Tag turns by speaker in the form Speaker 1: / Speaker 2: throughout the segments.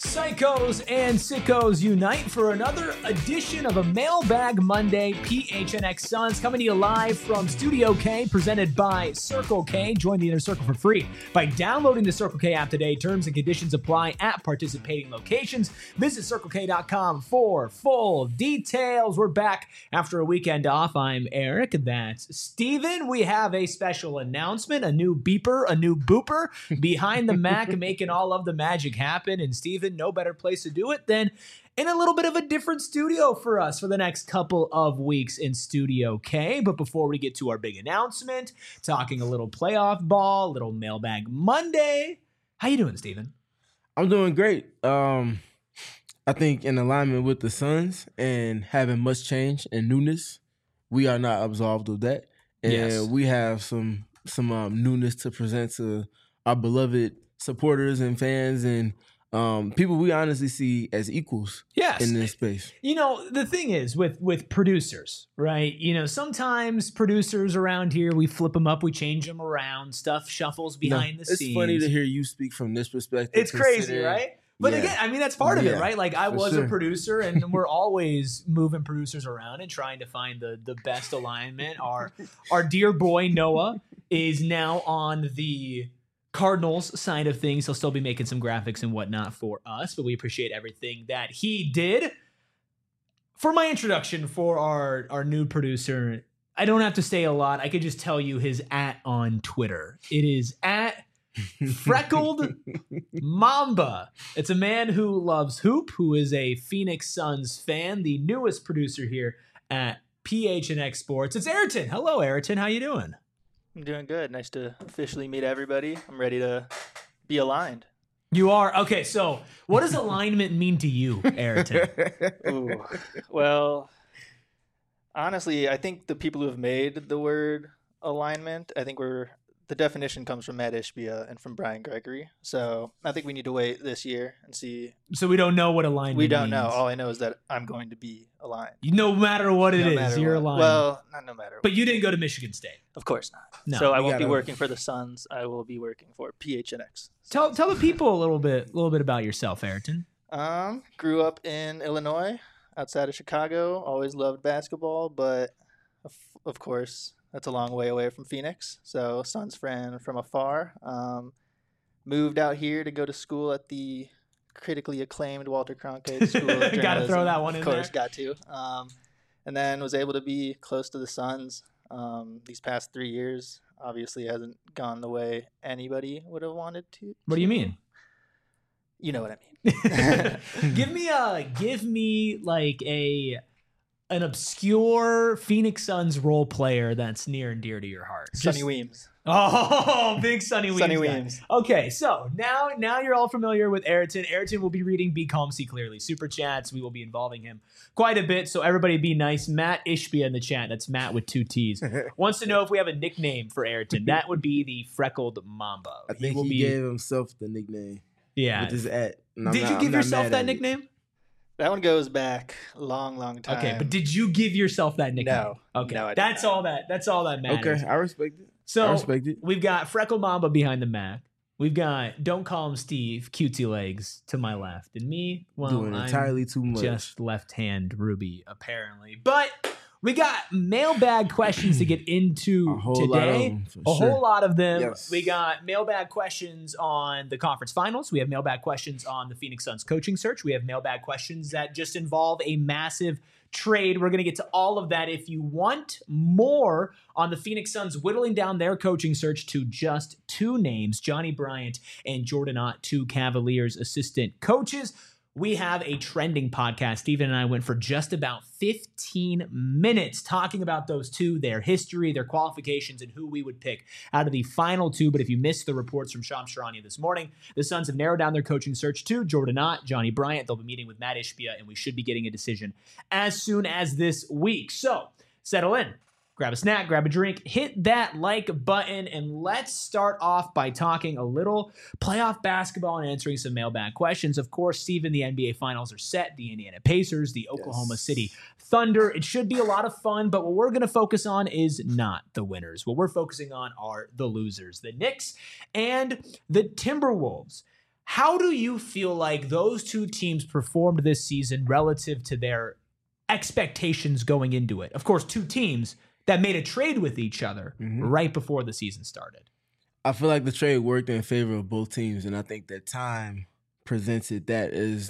Speaker 1: Psychos and sickos unite for another edition of a Mailbag Monday. PHNX Suns coming to you live from Studio K, presented by Circle K. Join the Inner Circle for free by downloading the Circle K app today. Terms and conditions apply at participating locations. Visit CircleK.com for full details. We're back after a weekend off. I'm Eric. That's Steven. We have a special announcement, a new beeper, a new booper behind the Mac, making all of the magic happen. And Steven, no better place to do it than in a little bit of a different studio for us for the next couple of weeks in Studio K. But before we get to our big announcement, talking a little playoff ball, little Mailbag Monday. How you doing, Steven?
Speaker 2: I'm doing great. I think in alignment with the Suns and having much change and newness, we are not absolved of that. And we have some newness to present to our beloved supporters and fans and people we honestly see as equals in this space.
Speaker 1: You know, the thing is with producers, right? You know, sometimes producers around here, we flip them up, we change them around, stuff shuffles behind the scenes.
Speaker 2: It's funny to hear you speak from this perspective.
Speaker 1: It's crazy, right? But again, I mean, that's part of it, right? Like, I was a producer, and we're always moving producers around and trying to find the best alignment. Our dear boy, Noah, is now on the Cardinals side of things. He'll still be making some graphics and whatnot for us, but we appreciate everything that he did. For my introduction for our new producer, I don't have to say a lot. I could just tell you his @ on Twitter. It is @ Freckled Mamba. It's a man who loves hoop, who is a Phoenix Suns fan, the newest producer here at PHNX Sports. It's Ayrton. Hello, Ayrton. How you doing?
Speaker 3: I'm doing good. Nice to officially meet everybody. I'm ready to be aligned.
Speaker 1: You are? Okay, so what does alignment mean to you, Ayrton?
Speaker 3: Ooh. Well, honestly, I think the people who have made the word alignment, I think the definition comes from Matt Ishbia and from Brian Gregory. So I think we need to wait this year and see.
Speaker 1: So we don't know what alignment
Speaker 3: We don't
Speaker 1: means.
Speaker 3: know. All I know is that I'm going to be aligned.
Speaker 1: No matter what it is, you're aligned.
Speaker 3: Well, not no matter what.
Speaker 1: But you didn't go to Michigan State.
Speaker 3: Of course not.
Speaker 1: No.
Speaker 3: So I won't be working for the Suns. I will be working for PHNX.
Speaker 1: Tell the people a little bit about yourself, Ayrton.
Speaker 3: Grew up in Illinois, outside of Chicago. Always loved basketball, but of course, that's a long way away from Phoenix. So Suns fan from afar. Moved out here to go to school at the critically acclaimed Walter Cronkite School of Journalism.
Speaker 1: Got to throw that one in there.
Speaker 3: Of course, got to. And then was able to be close to the Suns these past 3 years. Obviously hasn't gone the way anybody would have wanted to.
Speaker 1: What do you mean?
Speaker 3: You know what I mean.
Speaker 1: Give me like an obscure Phoenix Suns role player that's near and dear to your heart.
Speaker 3: Sonny Weems.
Speaker 1: Oh, big Sonny Weems.
Speaker 3: Sonny Weems.
Speaker 1: Okay, so now you're all familiar with Ayrton. Ayrton will be reading Be Calm, See Clearly Super Chats. We will be involving him quite a bit, so everybody be nice. Matt Ishbia in the chat, that's Matt with 2 T's, wants to know if we have a nickname for Ayrton. That would be the Freckled Mamba.
Speaker 2: I think he gave himself the nickname.
Speaker 1: Yeah.
Speaker 2: With his @
Speaker 1: Did you give yourself that nickname?
Speaker 3: That one goes back a long time.
Speaker 1: Okay, but did you give yourself that nickname?
Speaker 3: No.
Speaker 1: Okay,
Speaker 3: No, I did
Speaker 1: that's
Speaker 3: not.
Speaker 1: all that matters.
Speaker 2: Okay, I respect it.
Speaker 1: So
Speaker 2: I respect it.
Speaker 1: We've got Freckle Mamba behind the Mac. We've got Don't Call Him Steve, Cutesy Legs to my left, and me. Well,
Speaker 2: Doing entirely too much.
Speaker 1: Just left hand Ruby apparently, but we got mailbag questions to get into today. Whole lot of them.
Speaker 2: Yes.
Speaker 1: We got mailbag questions on the conference finals. We have mailbag questions on the Phoenix Suns coaching search. We have mailbag questions that just involve a massive trade. We're going to get to all of that. If you want more on the Phoenix Suns whittling down their coaching search to just 2 names, Johnny Bryant and Jordan Ott, 2 Cavaliers assistant coaches, we have a trending podcast. Steven and I went for just about 15 minutes talking about those 2, their history, their qualifications, and who we would pick out of the final 2. But if you missed the reports from Shams Charania this morning, the Suns have narrowed down their coaching search to Jordan Ott, Johnny Bryant. They'll be meeting with Matt Ishbia, and we should be getting a decision as soon as this week. So settle in. Grab a snack, grab a drink, hit that like button, and let's start off by talking a little playoff basketball and answering some mailbag questions. Of course, Steven, the NBA Finals are set. The Indiana Pacers, the Oklahoma City Thunder. It should be a lot of fun, but what we're going to focus on is not the winners. What we're focusing on are the losers, the Knicks and the Timberwolves. How do you feel like those two teams performed this season relative to their expectations going into it? Of course, two teams that made a trade with each other right before the season started.
Speaker 2: I feel like the trade worked in favor of both teams, and I think that time presented that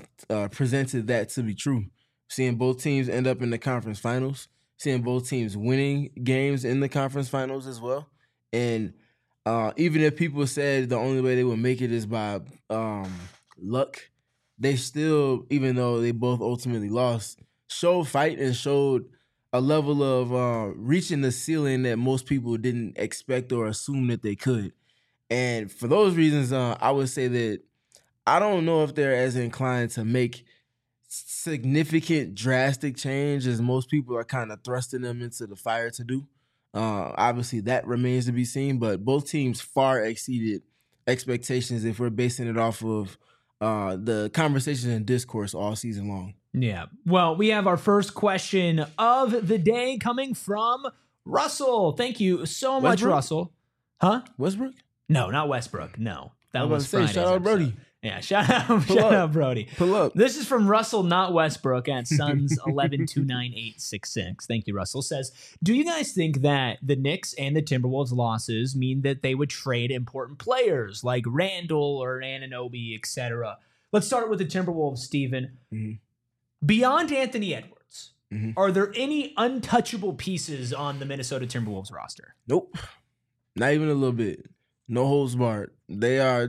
Speaker 2: to be true. Seeing both teams end up in the conference finals, seeing both teams winning games in the conference finals as well, and even if people said the only way they would make it is by luck, they still, even though they both ultimately lost, showed fight and showed a level of reaching the ceiling that most people didn't expect or assume that they could. And for those reasons, I would say that I don't know if they're as inclined to make significant, drastic change as most people are kind of thrusting them into the fire to do. Obviously, that remains to be seen, but both teams far exceeded expectations if we're basing it off of the conversation and discourse all season long.
Speaker 1: Yeah. Well, we have our first question of the day coming from Russell. Thank you so much, Russell. Huh?
Speaker 2: Westbrook?
Speaker 1: No, not Westbrook. No. That was Friday's
Speaker 2: shout out Brody.
Speaker 1: Yeah, shout out Brody.
Speaker 2: Pull up.
Speaker 1: This is from Russell, not Westbrook, at Suns 11298666. Thank you, Russell. Says, do you guys think that the Knicks and the Timberwolves losses mean that they would trade important players like Randall or Anunoby, etc.? Let's start with the Timberwolves, Steven. Beyond Anthony Edwards, are there any untouchable pieces on the Minnesota Timberwolves roster?
Speaker 2: Nope. Not even a little bit. No holds barred. They are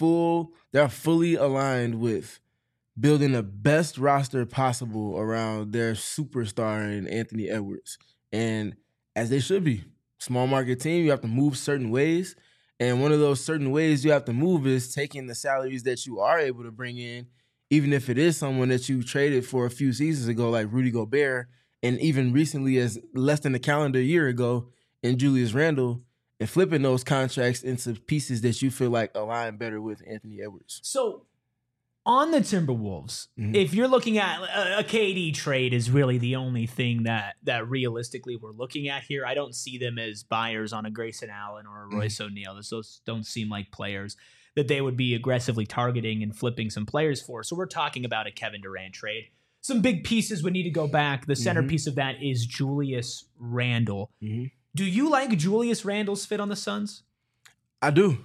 Speaker 2: fully aligned with building the best roster possible around their superstar in Anthony Edwards. And as they should be. Small market team, you have to move certain ways. And one of those certain ways you have to move is taking the salaries that you are able to bring in, even if it is someone that you traded for a few seasons ago, like Rudy Gobert, and even recently as less than a calendar year ago in Julius Randle, and flipping those contracts into pieces that you feel like align better with Anthony Edwards.
Speaker 1: So on the Timberwolves, if you're looking at a KD trade is really the only thing that realistically we're looking at here. I don't see them as buyers on a Grayson Allen or a Royce O'Neal. Those don't seem like players that they would be aggressively targeting and flipping some players for. So we're talking about a Kevin Durant trade. Some big pieces would need to go back. The centerpiece of that is Julius Randle. Do you like Julius Randle's fit on the Suns?
Speaker 2: I do.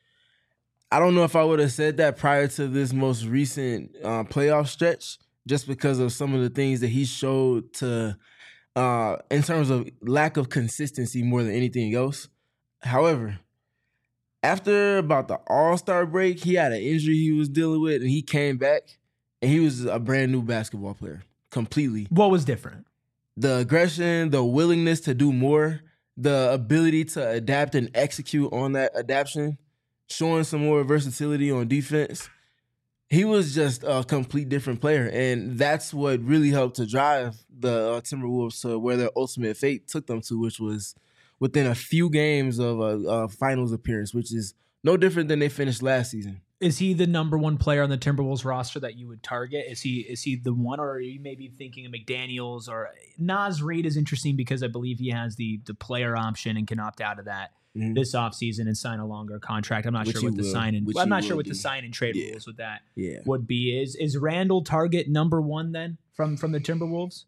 Speaker 2: I don't know if I would have said that prior to this most recent playoff stretch, just because of some of the things that he showed to in terms of lack of consistency more than anything else. However, after about the All-Star break, he had an injury he was dealing with, and he came back, and he was a brand new basketball player, completely.
Speaker 1: What was different?
Speaker 2: The aggression, the willingness to do more, the ability to adapt and execute on that adaptation, showing some more versatility on defense. He was just a complete different player, and that's what really helped to drive the Timberwolves to where their ultimate fate took them to, which was within a few games of a finals appearance, which is no different than they finished last season.
Speaker 1: Is he the number one player on the Timberwolves roster that you would target? Is he the one, or are you maybe thinking of McDaniels or Naz Reid is interesting because I believe he has the player option and can opt out of that this offseason and sign a longer contract. I'm not sure what the sign and trade rules with that would be. Is Randall target number one then from the Timberwolves?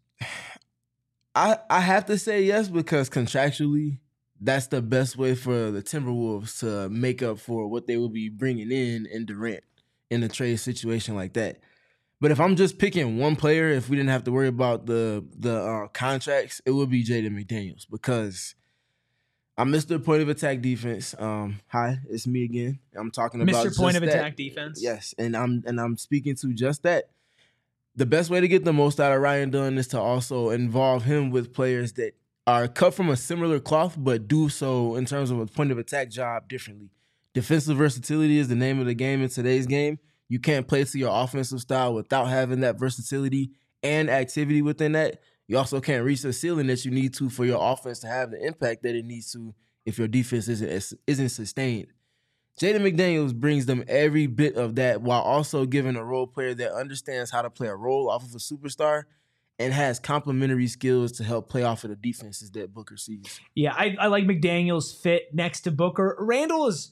Speaker 2: I have to say yes, because contractually that's the best way for the Timberwolves to make up for what they will be bringing in Durant in a trade situation like that. But if I'm just picking one player, if we didn't have to worry about the contracts, it would be Jaden McDaniels, because I'm Mr. Point of Attack Defense. Hi, it's me again. I'm talking about
Speaker 1: Mr. Point of Attack Defense.
Speaker 2: Yes, and I'm speaking to just that. The best way to get the most out of Ryan Dunn is to also involve him with players that are cut from a similar cloth, but do so in terms of a point of attack job differently. Defensive versatility is the name of the game in today's game. You can't play to your offensive style without having that versatility and activity within that. You also can't reach the ceiling that you need to for your offense to have the impact that it needs to if your defense isn't sustained. Jaden McDaniels brings them every bit of that, while also giving a role player that understands how to play a role off of a superstar and has complementary skills to help play off of the defenses that Booker sees.
Speaker 1: Yeah, I like McDaniels' fit next to Booker. Randall is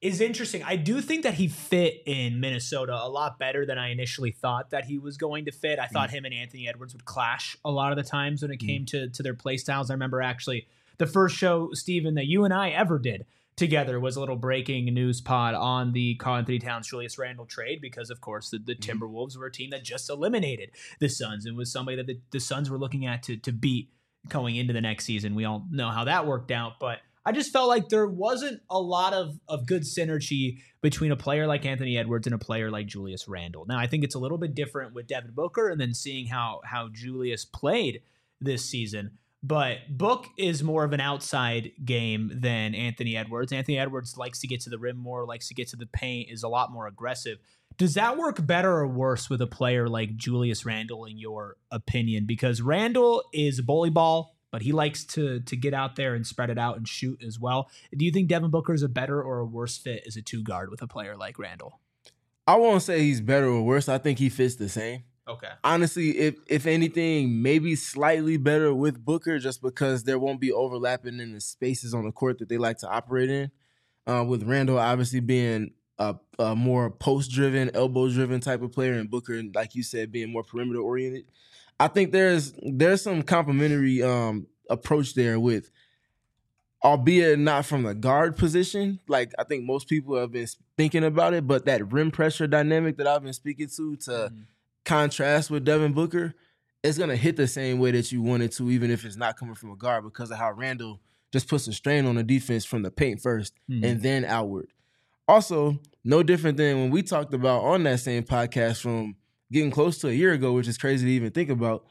Speaker 1: is interesting. I do think that he fit in Minnesota a lot better than I initially thought that he was going to fit. I thought him and Anthony Edwards would clash a lot of the times when it came to their play styles. I remember actually the first show, Steven, that you and I ever did together was a little breaking news pod on the Karl-Anthony Towns Julius Randle trade because, of course, the Timberwolves were a team that just eliminated the Suns and was somebody that the Suns were looking at to beat going into the next season. We all know how that worked out, but I just felt like there wasn't a lot of good synergy between a player like Anthony Edwards and a player like Julius Randle. Now, I think it's a little bit different with Devin Booker and then seeing how Julius played this season. But Book is more of an outside game than Anthony Edwards. Anthony Edwards likes to get to the rim more, likes to get to the paint, is a lot more aggressive. Does that work better or worse with a player like Julius Randle, in your opinion? Because Randle is a bully ball, but he likes to get out there and spread it out and shoot as well. Do you think Devin Booker is a better or a worse fit as a two guard with a player like Randle?
Speaker 2: I won't say he's better or worse. I think he fits the same.
Speaker 1: Okay.
Speaker 2: Honestly, if anything, maybe slightly better with Booker just because there won't be overlapping in the spaces on the court that they like to operate in. With Randle obviously being a more post-driven, elbow-driven type of player, and Booker, like you said, being more perimeter-oriented. I think there's some complementary approach there with, albeit not from the guard position. Like, I think most people have been thinking about it, but that rim pressure dynamic that I've been speaking to contrast with Devin Booker, it's going to hit the same way that you want it to, even if it's not coming from a guard, because of how Randle just puts a strain on the defense from the paint first and then outward. Also, no different than when we talked about on that same podcast from getting close to a year ago, which is crazy to even think about.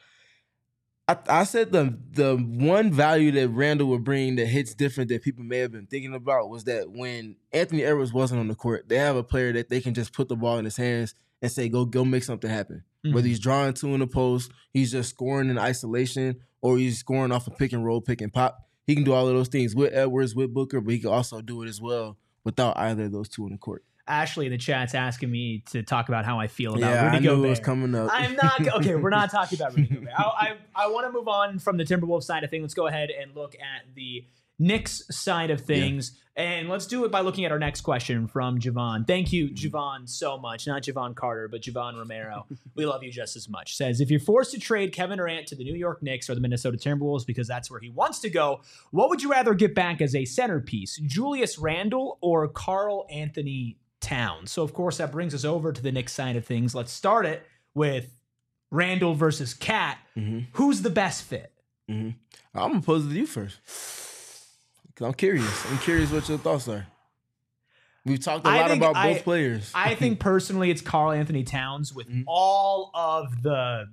Speaker 2: I said the one value that Randle would bring that hits different that people may have been thinking about was that when Anthony Edwards wasn't on the court, they have a player that they can just put the ball in his hands and say, go make something happen. Whether he's drawing two in the post, he's just scoring in isolation, or he's scoring off a pick and roll, pick and pop. He can do all of those things with Edwards, with Booker, but he can also do it as well without either of those two in the court.
Speaker 1: Ashley in the chat's asking me to talk about how I feel about Rudy Gobert.
Speaker 2: I knew it was coming up.
Speaker 1: I'm not okay. We're not talking about Rudy Gobert. I want to move on from the Timberwolves side of things. Let's go ahead and look at the Knicks side of things, and let's do it by looking at our next question from Javon. Thank you, Javon, so much. Not Javon Carter, but Javon Romero. We love you just as much. Says, if you're forced to trade Kevin Durant to the New York Knicks or the Minnesota Timberwolves because that's where he wants to go, what would you rather get back as a centerpiece, Julius Randle or Karl-Anthony Towns? So, of course, that brings us over to the Knicks side of things. Let's start it with Randle versus Cat. Who's the best fit?
Speaker 2: I'm going to pose it to you first. Because I'm curious. I'm curious what your thoughts are. We've talked a lot about both players.
Speaker 1: I think personally it's Karl-Anthony Towns with all of the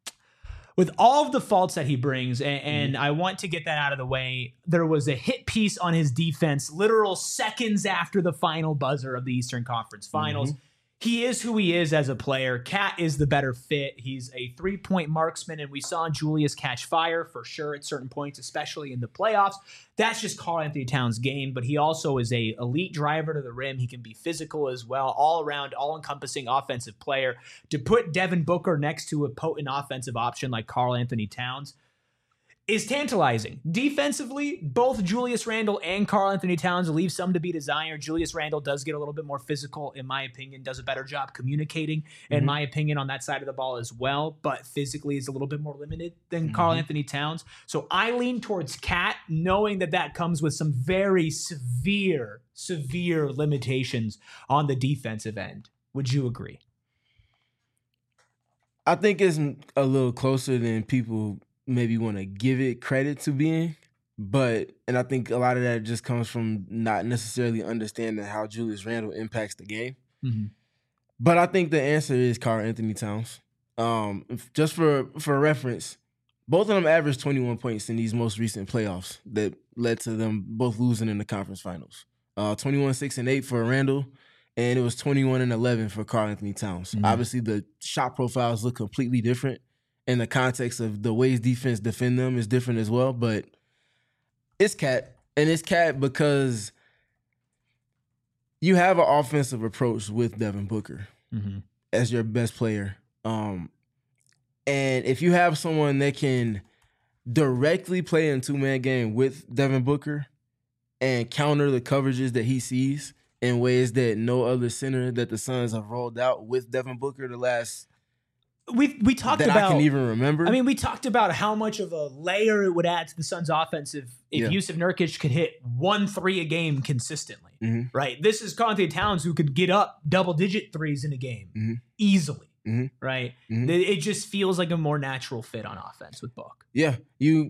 Speaker 1: faults that he brings, and I want to get that out of the way. There was a hit piece on his defense literal seconds after the final buzzer of the Eastern Conference Finals. He is who he is as a player. Cat is the better fit. He's a three-point marksman, and we saw Julius catch fire for sure at certain points, especially in the playoffs. That's just Karl-Anthony Towns' game, but he also is a elite driver to the rim. He can be physical as well, all-around, all-encompassing offensive player. To put Devin Booker next to a potent offensive option like Karl-Anthony Towns is tantalizing. Defensively, both Julius Randle and Karl-Anthony Towns leave some to be desired. Julius Randle does get a little bit more physical, in my opinion, does a better job communicating, in my opinion, on that side of the ball as well, but physically is a little bit more limited than Karl-Anthony Towns. So I lean towards Cat, knowing that comes with some very severe limitations on the defensive end. Would you agree?
Speaker 2: I think it's a little closer than people maybe want to give it credit to being, and I think a lot of that just comes from not necessarily understanding how Julius Randle impacts the game. But I think the answer is Karl-Anthony Towns. Just for reference, both of them averaged 21 points in these most recent playoffs that led to them both losing in the conference finals. 21, 6, and 8 for Randle, and it was 21 and 11 for Karl-Anthony Towns. Obviously, the shot profiles look completely different. In the context of the ways defense defend them is different as well, but it's Cat. And it's Cat because you have an offensive approach with Devin Booker as your best player. And if you have someone that can directly play in two-man game with Devin Booker and counter the coverages that he sees in ways that no other center that the Suns have rolled out with Devin Booker the last
Speaker 1: we talked
Speaker 2: that
Speaker 1: about,
Speaker 2: I can even remember.
Speaker 1: I mean, we talked about how much of a layer it would add to the Suns' offense if Jusuf Nurkic could hit 1-3 a game consistently, right? This is Karl-Anthony Towns who could get up double-digit threes in a game easily, right? It just feels like a more natural fit on offense with Book.
Speaker 2: Yeah,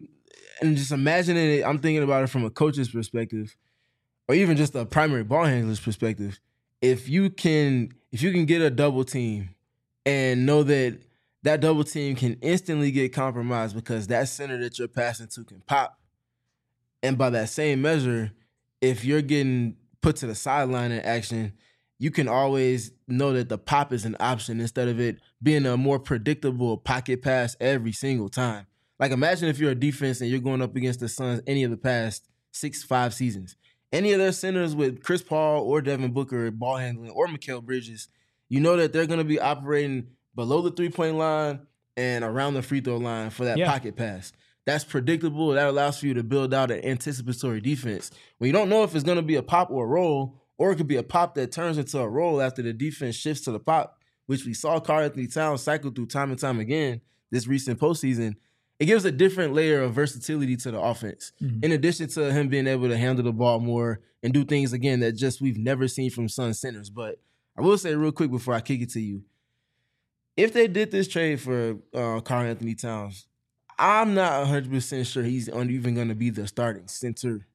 Speaker 2: and just imagining it, I'm thinking about it from a coach's perspective, or even just a primary ball handler's perspective. If you can get a double team and know that double team can instantly get compromised because that center that you're passing to can pop. And by that same measure, if you're getting put to the sideline in action, you can always know that the pop is an option instead of it being a more predictable pocket pass every single time. Like, imagine if you're a defense and you're going up against the Suns any of the past 5 seasons. Any of their centers with Chris Paul or Devin Booker ball handling or Mikal Bridges, you know that they're going to be operating below the three-point line and around the free throw line for that pocket pass. That's predictable. That allows for you to build out an anticipatory defense. When you don't know if it's going to be a pop or a roll, or it could be a pop that turns into a roll after the defense shifts to the pop, which we saw Karl-Anthony Towns cycle through time and time again this recent postseason, it gives a different layer of versatility to the offense. In addition to him being able to handle the ball more and do things, again, that just we've never seen from Suns centers. But I will say real quick before I kick it to you, if they did this trade for Karl-Anthony Towns, I'm not 100% sure he's even going to be the starting center.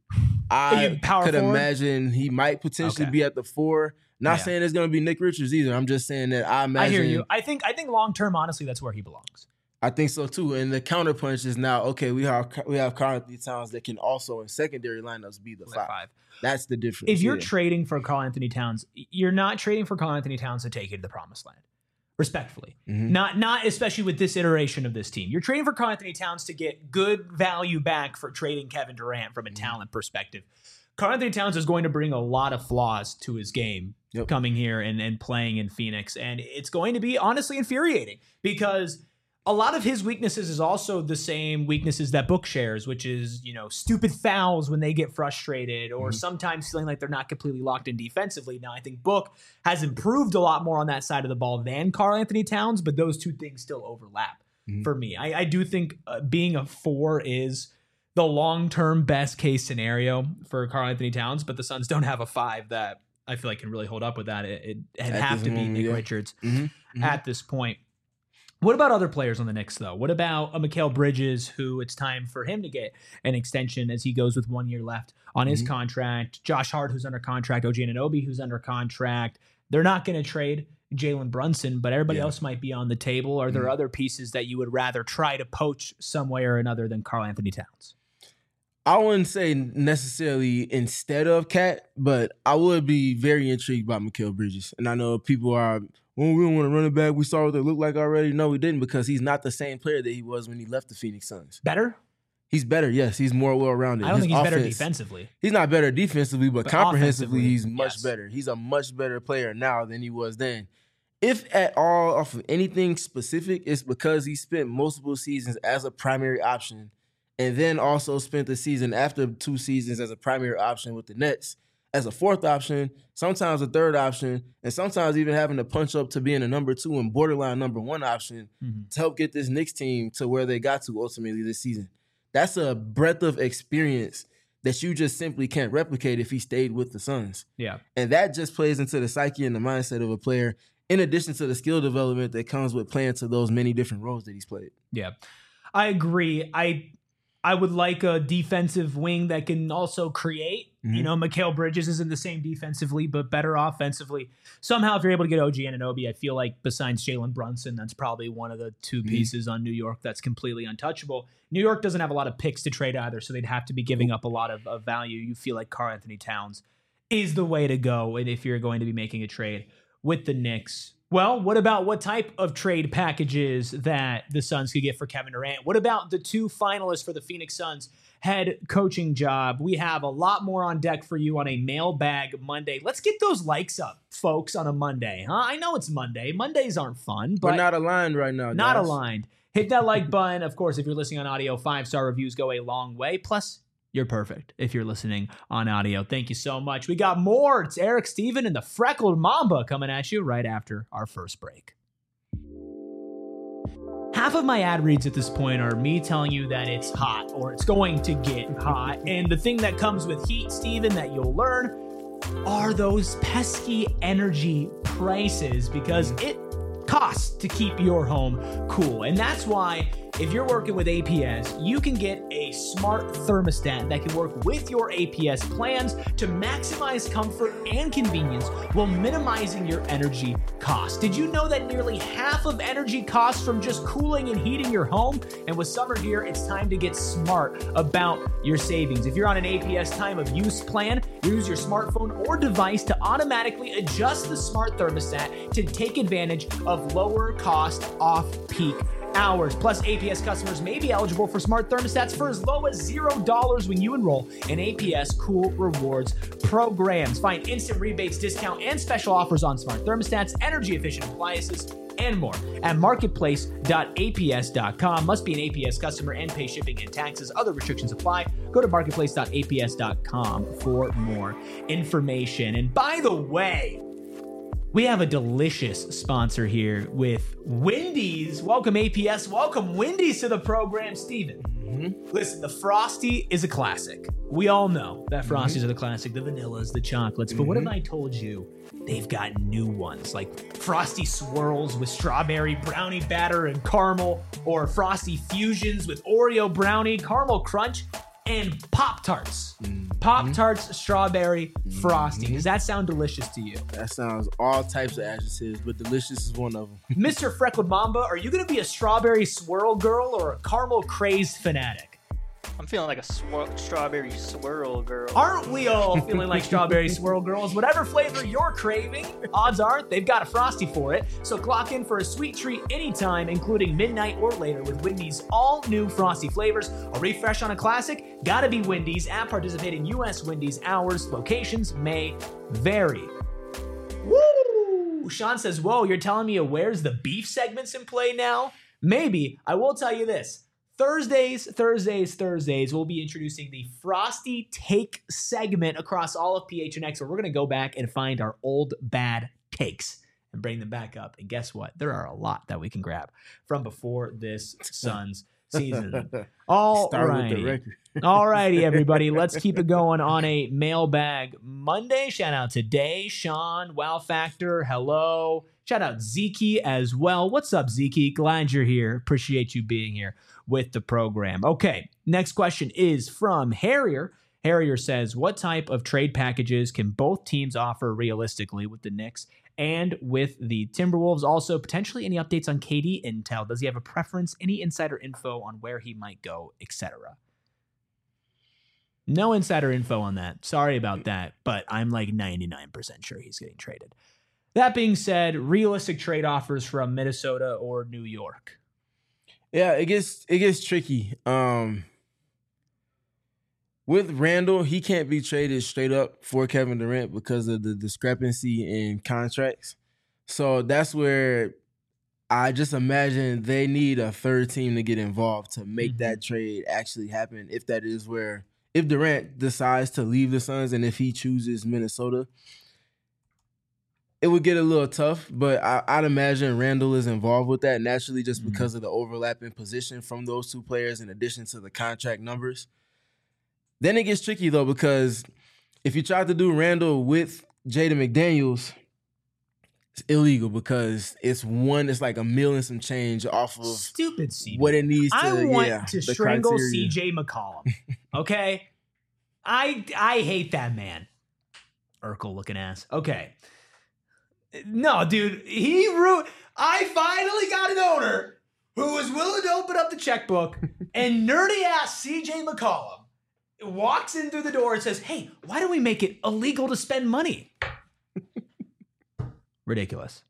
Speaker 2: I could imagine he might potentially be at the 4. Not saying it's going to be Nick Richards either. I'm just saying that I imagine.
Speaker 1: I hear you. I think long term, honestly, that's where he belongs.
Speaker 2: I think so too. And the counterpunch is now, okay, we have Karl-Anthony Towns that can also in secondary lineups be the 5. That's the difference.
Speaker 1: If you're trading for Karl-Anthony Towns, you're not trading for Karl-Anthony Towns to take you to the promised land. Respectfully. Not especially with this iteration of this team. You're trading for Karl-Anthony Towns to get good value back for trading Kevin Durant from a talent perspective. Karl-Anthony Towns is going to bring a lot of flaws to his game coming here and playing in Phoenix. And it's going to be honestly infuriating because a lot of his weaknesses is also the same weaknesses that Book shares, which is, stupid fouls when they get frustrated or sometimes feeling like they're not completely locked in defensively. Now, I think Book has improved a lot more on that side of the ball than Karl-Anthony Towns, but those two things still overlap for me. I do think being a 4 is the long-term best case scenario for Karl-Anthony Towns, but the Suns don't have a 5 that I feel like can really hold up with that. It'd have to be Nick Richards at this point. What about other players on the Knicks, though? What about a Mikal Bridges, who it's time for him to get an extension as he goes with 1 year left on his contract? Josh Hart, who's under contract. OG Anunoby, who's under contract. They're not going to trade Jalen Brunson, but everybody else might be on the table. Are there other pieces that you would rather try to poach some way or another than Karl-Anthony Towns?
Speaker 2: I wouldn't say necessarily instead of Cat, but I would be very intrigued by Mikal Bridges. And I know people are, well, we don't want to run it back. We saw what they look like already. No, we didn't, because he's not the same player that he was when he left the Phoenix Suns.
Speaker 1: Better?
Speaker 2: He's better, yes. He's more well-rounded.
Speaker 1: I don't think he's better defensively.
Speaker 2: He's not better defensively, but comprehensively, he's much better. He's a much better player now than he was then. If at all, off of anything specific, it's because he spent multiple seasons as a primary option and then also spent the season after 2 seasons as a primary option with the Nets, as a 4th option, sometimes a 3rd option, and sometimes even having to punch up to being a number 2 and borderline number 1 option to help get this Knicks team to where they got to ultimately this season. That's a breadth of experience that you just simply can't replicate if he stayed with the Suns. Yeah. And that just plays into the psyche and the mindset of a player, in addition to the skill development that comes with playing to those many different roles that he's played.
Speaker 1: Yeah, I agree. I would like a defensive wing that can also create. Mikal Bridges isn't the same defensively, but better offensively. Somehow, if you're able to get OG Anunoby, I feel like besides Jalen Brunson, that's probably one of the 2 pieces on New York that's completely untouchable. New York doesn't have a lot of picks to trade either, so they'd have to be giving up a lot of value. You feel like Karl-Anthony Towns is the way to go if you're going to be making a trade with the Knicks. Well, what about what type of trade packages that the Suns could get for Kevin Durant? What about the 2 finalists for the Phoenix Suns head coaching job? We have a lot more on deck for you on a Mailbag Monday. Let's get those likes up, folks, on a Monday. I know it's Monday. Mondays aren't fun, but
Speaker 2: we're not aligned right now, guys.
Speaker 1: Not aligned. Hit that like button. Of course, if you're listening on audio, 5-star reviews go a long way. Plus, You're perfect if you're listening on audio. Thank you so much. We got more. It's Eric, Steven, and the Freckled Mamba coming at you right after our first break. Half of my ad reads at this point are me telling you that it's hot or it's going to get hot. And the thing that comes with heat, Steven, that you'll learn are those pesky energy prices, because it costs to keep your home cool. And that's why if you're working with APS, you can get a smart thermostat that can work with your APS plans to maximize comfort and convenience while minimizing your energy costs. Did you know that nearly half of energy costs from just cooling and heating your home? And with summer here, it's time to get smart about your savings. If you're on an APS time of use plan, use your smartphone or device to automatically adjust the smart thermostat to take advantage of lower cost off-peak hours. Plus, APS customers may be eligible for smart thermostats for as low as $0 when you enroll in APS Cool Rewards programs. Find instant rebates, discount, and special offers on smart thermostats, energy-efficient appliances, and more at marketplace.aps.com. Must be an APS customer and pay shipping and taxes. Other restrictions apply. Go to marketplace.aps.com for more information. And by the way, we have a delicious sponsor here with Wendy's. Welcome, APS. Welcome, Wendy's, to the program. Steven, listen, the Frosty is a classic. We all know that Frosties are the classic, the vanillas, the chocolates. But what if I told you they've got new ones, like Frosty Swirls with strawberry brownie batter and caramel, or Frosty Fusions with Oreo brownie, caramel crunch, and Pop-Tarts. Pop-Tarts strawberry frosty. Does that sound delicious to you?
Speaker 2: That sounds all types of adjectives, but delicious is one of them.
Speaker 1: Mr. Freckled Mamba, are you going to be a strawberry swirl girl or a caramel crazed fanatic?
Speaker 3: I'm feeling like a strawberry swirl girl.
Speaker 1: Aren't we all feeling like strawberry swirl girls? Whatever flavor you're craving, odds are they've got a Frosty for it. So clock in for a sweet treat anytime, including midnight or later, with Wendy's all-new Frosty flavors. A refresh on a classic? Gotta be Wendy's. At participating U.S. Wendy's. Hours, locations may vary. Woo! Sean says, whoa, you're telling me where's the beef segments in play now? Maybe. I will tell you this. Thursdays, we'll be introducing the Frosty Take segment across all of PHNX, where we're going to go back and find our old bad takes and bring them back up. And guess what? There are a lot that we can grab from before this Suns season. All righty, everybody. Let's keep it going on a Mailbag Monday. Shout out to Day, Sean, Wow Factor, hello. Shout out Zeke as well. What's up, Zeke? Glad you're here. Appreciate you being here with the program. Okay, next question is from Harrier. Harrier says, what type of trade packages can both teams offer realistically with the Knicks and with the Timberwolves? Also, potentially any updates on KD intel? Does he have a preference? Any insider info on where he might go, etc.? No insider info on that. Sorry about that, but I'm like 99% sure he's getting traded. That being said, realistic trade offers from Minnesota or New York.
Speaker 2: Yeah, it gets tricky. With Randall, he can't be traded straight up for Kevin Durant because of the discrepancy in contracts. So that's where I just imagine they need a third team to get involved to make that trade actually happen. If that is where, if Durant decides to leave the Suns and if he chooses Minnesota, it would get a little tough, but I'd imagine Randall is involved with that naturally just because of the overlapping position from those two players in addition to the contract numbers. Then it gets tricky, though, because if you try to do Randall with Jaden McDaniels, it's illegal because it's like $1 million and some change off of
Speaker 1: stupid CJ.
Speaker 2: What it needs to.
Speaker 1: I want to strangle CJ McCollum. Okay? I hate that man. Urkel looking ass. Okay. No, dude, I finally got an owner who was willing to open up the checkbook, and nerdy ass CJ McCollum walks in through the door and says, hey, why don't we make it illegal to spend money? Ridiculous.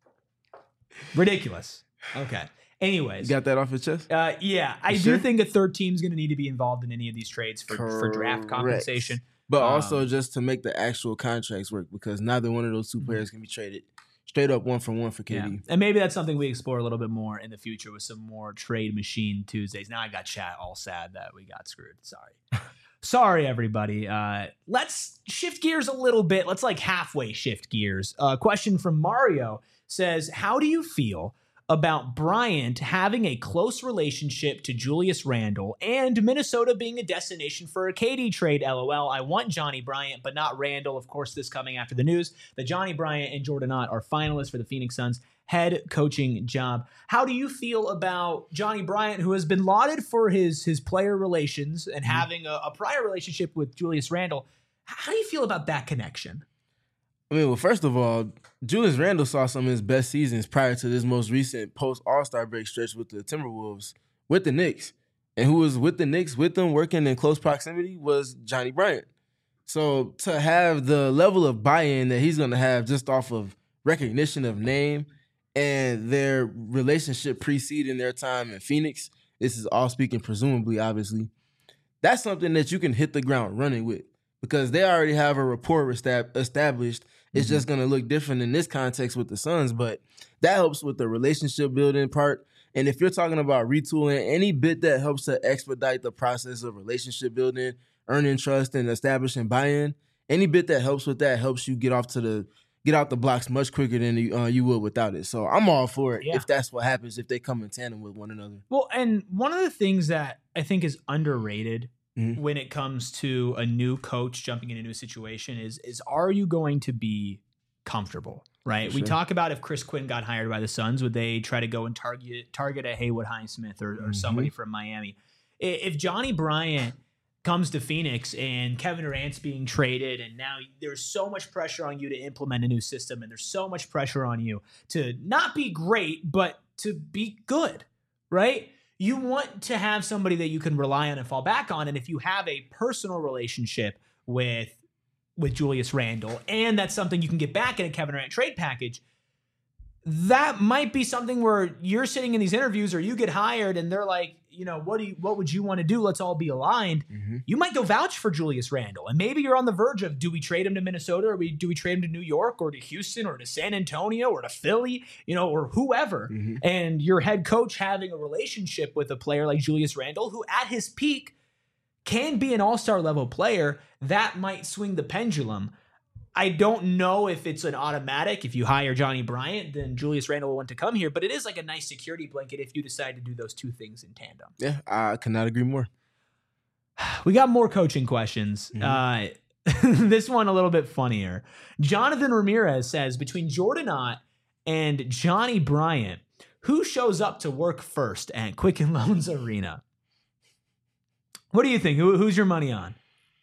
Speaker 1: Okay. Anyways.
Speaker 2: You got that off your chest?
Speaker 1: Yeah. I do think a third team's going to need to be involved in any of these trades for draft compensation.
Speaker 2: But also just to make the actual contracts work, because neither one of those two players can be traded straight up 1-for-1 for KD.
Speaker 1: Yeah. And maybe that's something we explore a little bit more in the future with some more Trade Machine Tuesdays. Now I got chat all sad that we got screwed. Sorry. Sorry, everybody. Let's shift gears a little bit. Let's like halfway shift gears. Question from Mario says, how do you feel about Bryant having a close relationship to Julius Randle and Minnesota being a destination for a KD trade? LOL. I want Johnny Bryant, but not Randle. Of course, this coming after the news that Johnny Bryant and Jordan Ott are finalists for the Phoenix Suns head coaching job. How do you feel about Johnny Bryant, who has been lauded for his player relations and having a prior relationship with Julius Randle? How do you feel about that connection?
Speaker 2: I mean, well, first of all, Julius Randle saw some of his best seasons prior to this most recent post-All-Star break stretch with the Timberwolves, with the Knicks. And who was with the Knicks, with them, working in close proximity, was Johnny Bryant. So to have the level of buy-in that he's going to have just off of recognition of name and their relationship preceding their time in Phoenix, this is all speaking presumably, obviously, that's something that you can hit the ground running with because they already have a rapport established. It's just going to look different in this context with the Suns, but that helps with the relationship building part. And if you're talking about retooling, any bit that helps to expedite the process of relationship building, earning trust, and establishing buy-in, any bit that helps with that helps you get out the blocks much quicker than you would without it. So I'm all for it if that's what happens, if they come in tandem with one another.
Speaker 1: Well, and one of the things that I think is underrated when it comes to a new coach jumping in a new situation is are you going to be comfortable, right?
Speaker 2: Sure.
Speaker 1: We talk about if Chris Quinn got hired by the Suns, would they try to go and target a Haywood Highsmith or somebody from Miami? If Johnny Bryant comes to Phoenix and Kevin Durant's being traded and now there's so much pressure on you to implement a new system and there's so much pressure on you to not be great, but to be good, right? You want to have somebody that you can rely on and fall back on. And if you have a personal relationship with Julius Randle, and that's something you can get back in a Kevin Durant trade package, that might be something where you're sitting in these interviews or you get hired and they're like, you know, what would you want to do? Let's all be aligned. You might go vouch for Julius Randle. And maybe you're on the verge of, do we trade him to Minnesota or do we trade him to New York or to Houston or to San Antonio or to Philly, you know, or whoever. And your head coach having a relationship with a player like Julius Randle, who at his peak can be an all-star level player, that might swing the pendulum. I don't know if it's an automatic. If you hire Johnny Bryant, then Julius Randle will want to come here. But it is like a nice security blanket if you decide to do those two things in tandem.
Speaker 2: Yeah, I cannot agree more.
Speaker 1: We got more coaching questions. This one a little bit funnier. Jonathan Ramirez says, between Jordan Ott and Johnny Bryant, who shows up to work first at Quicken Loans Arena? What do you think? Who's your money on?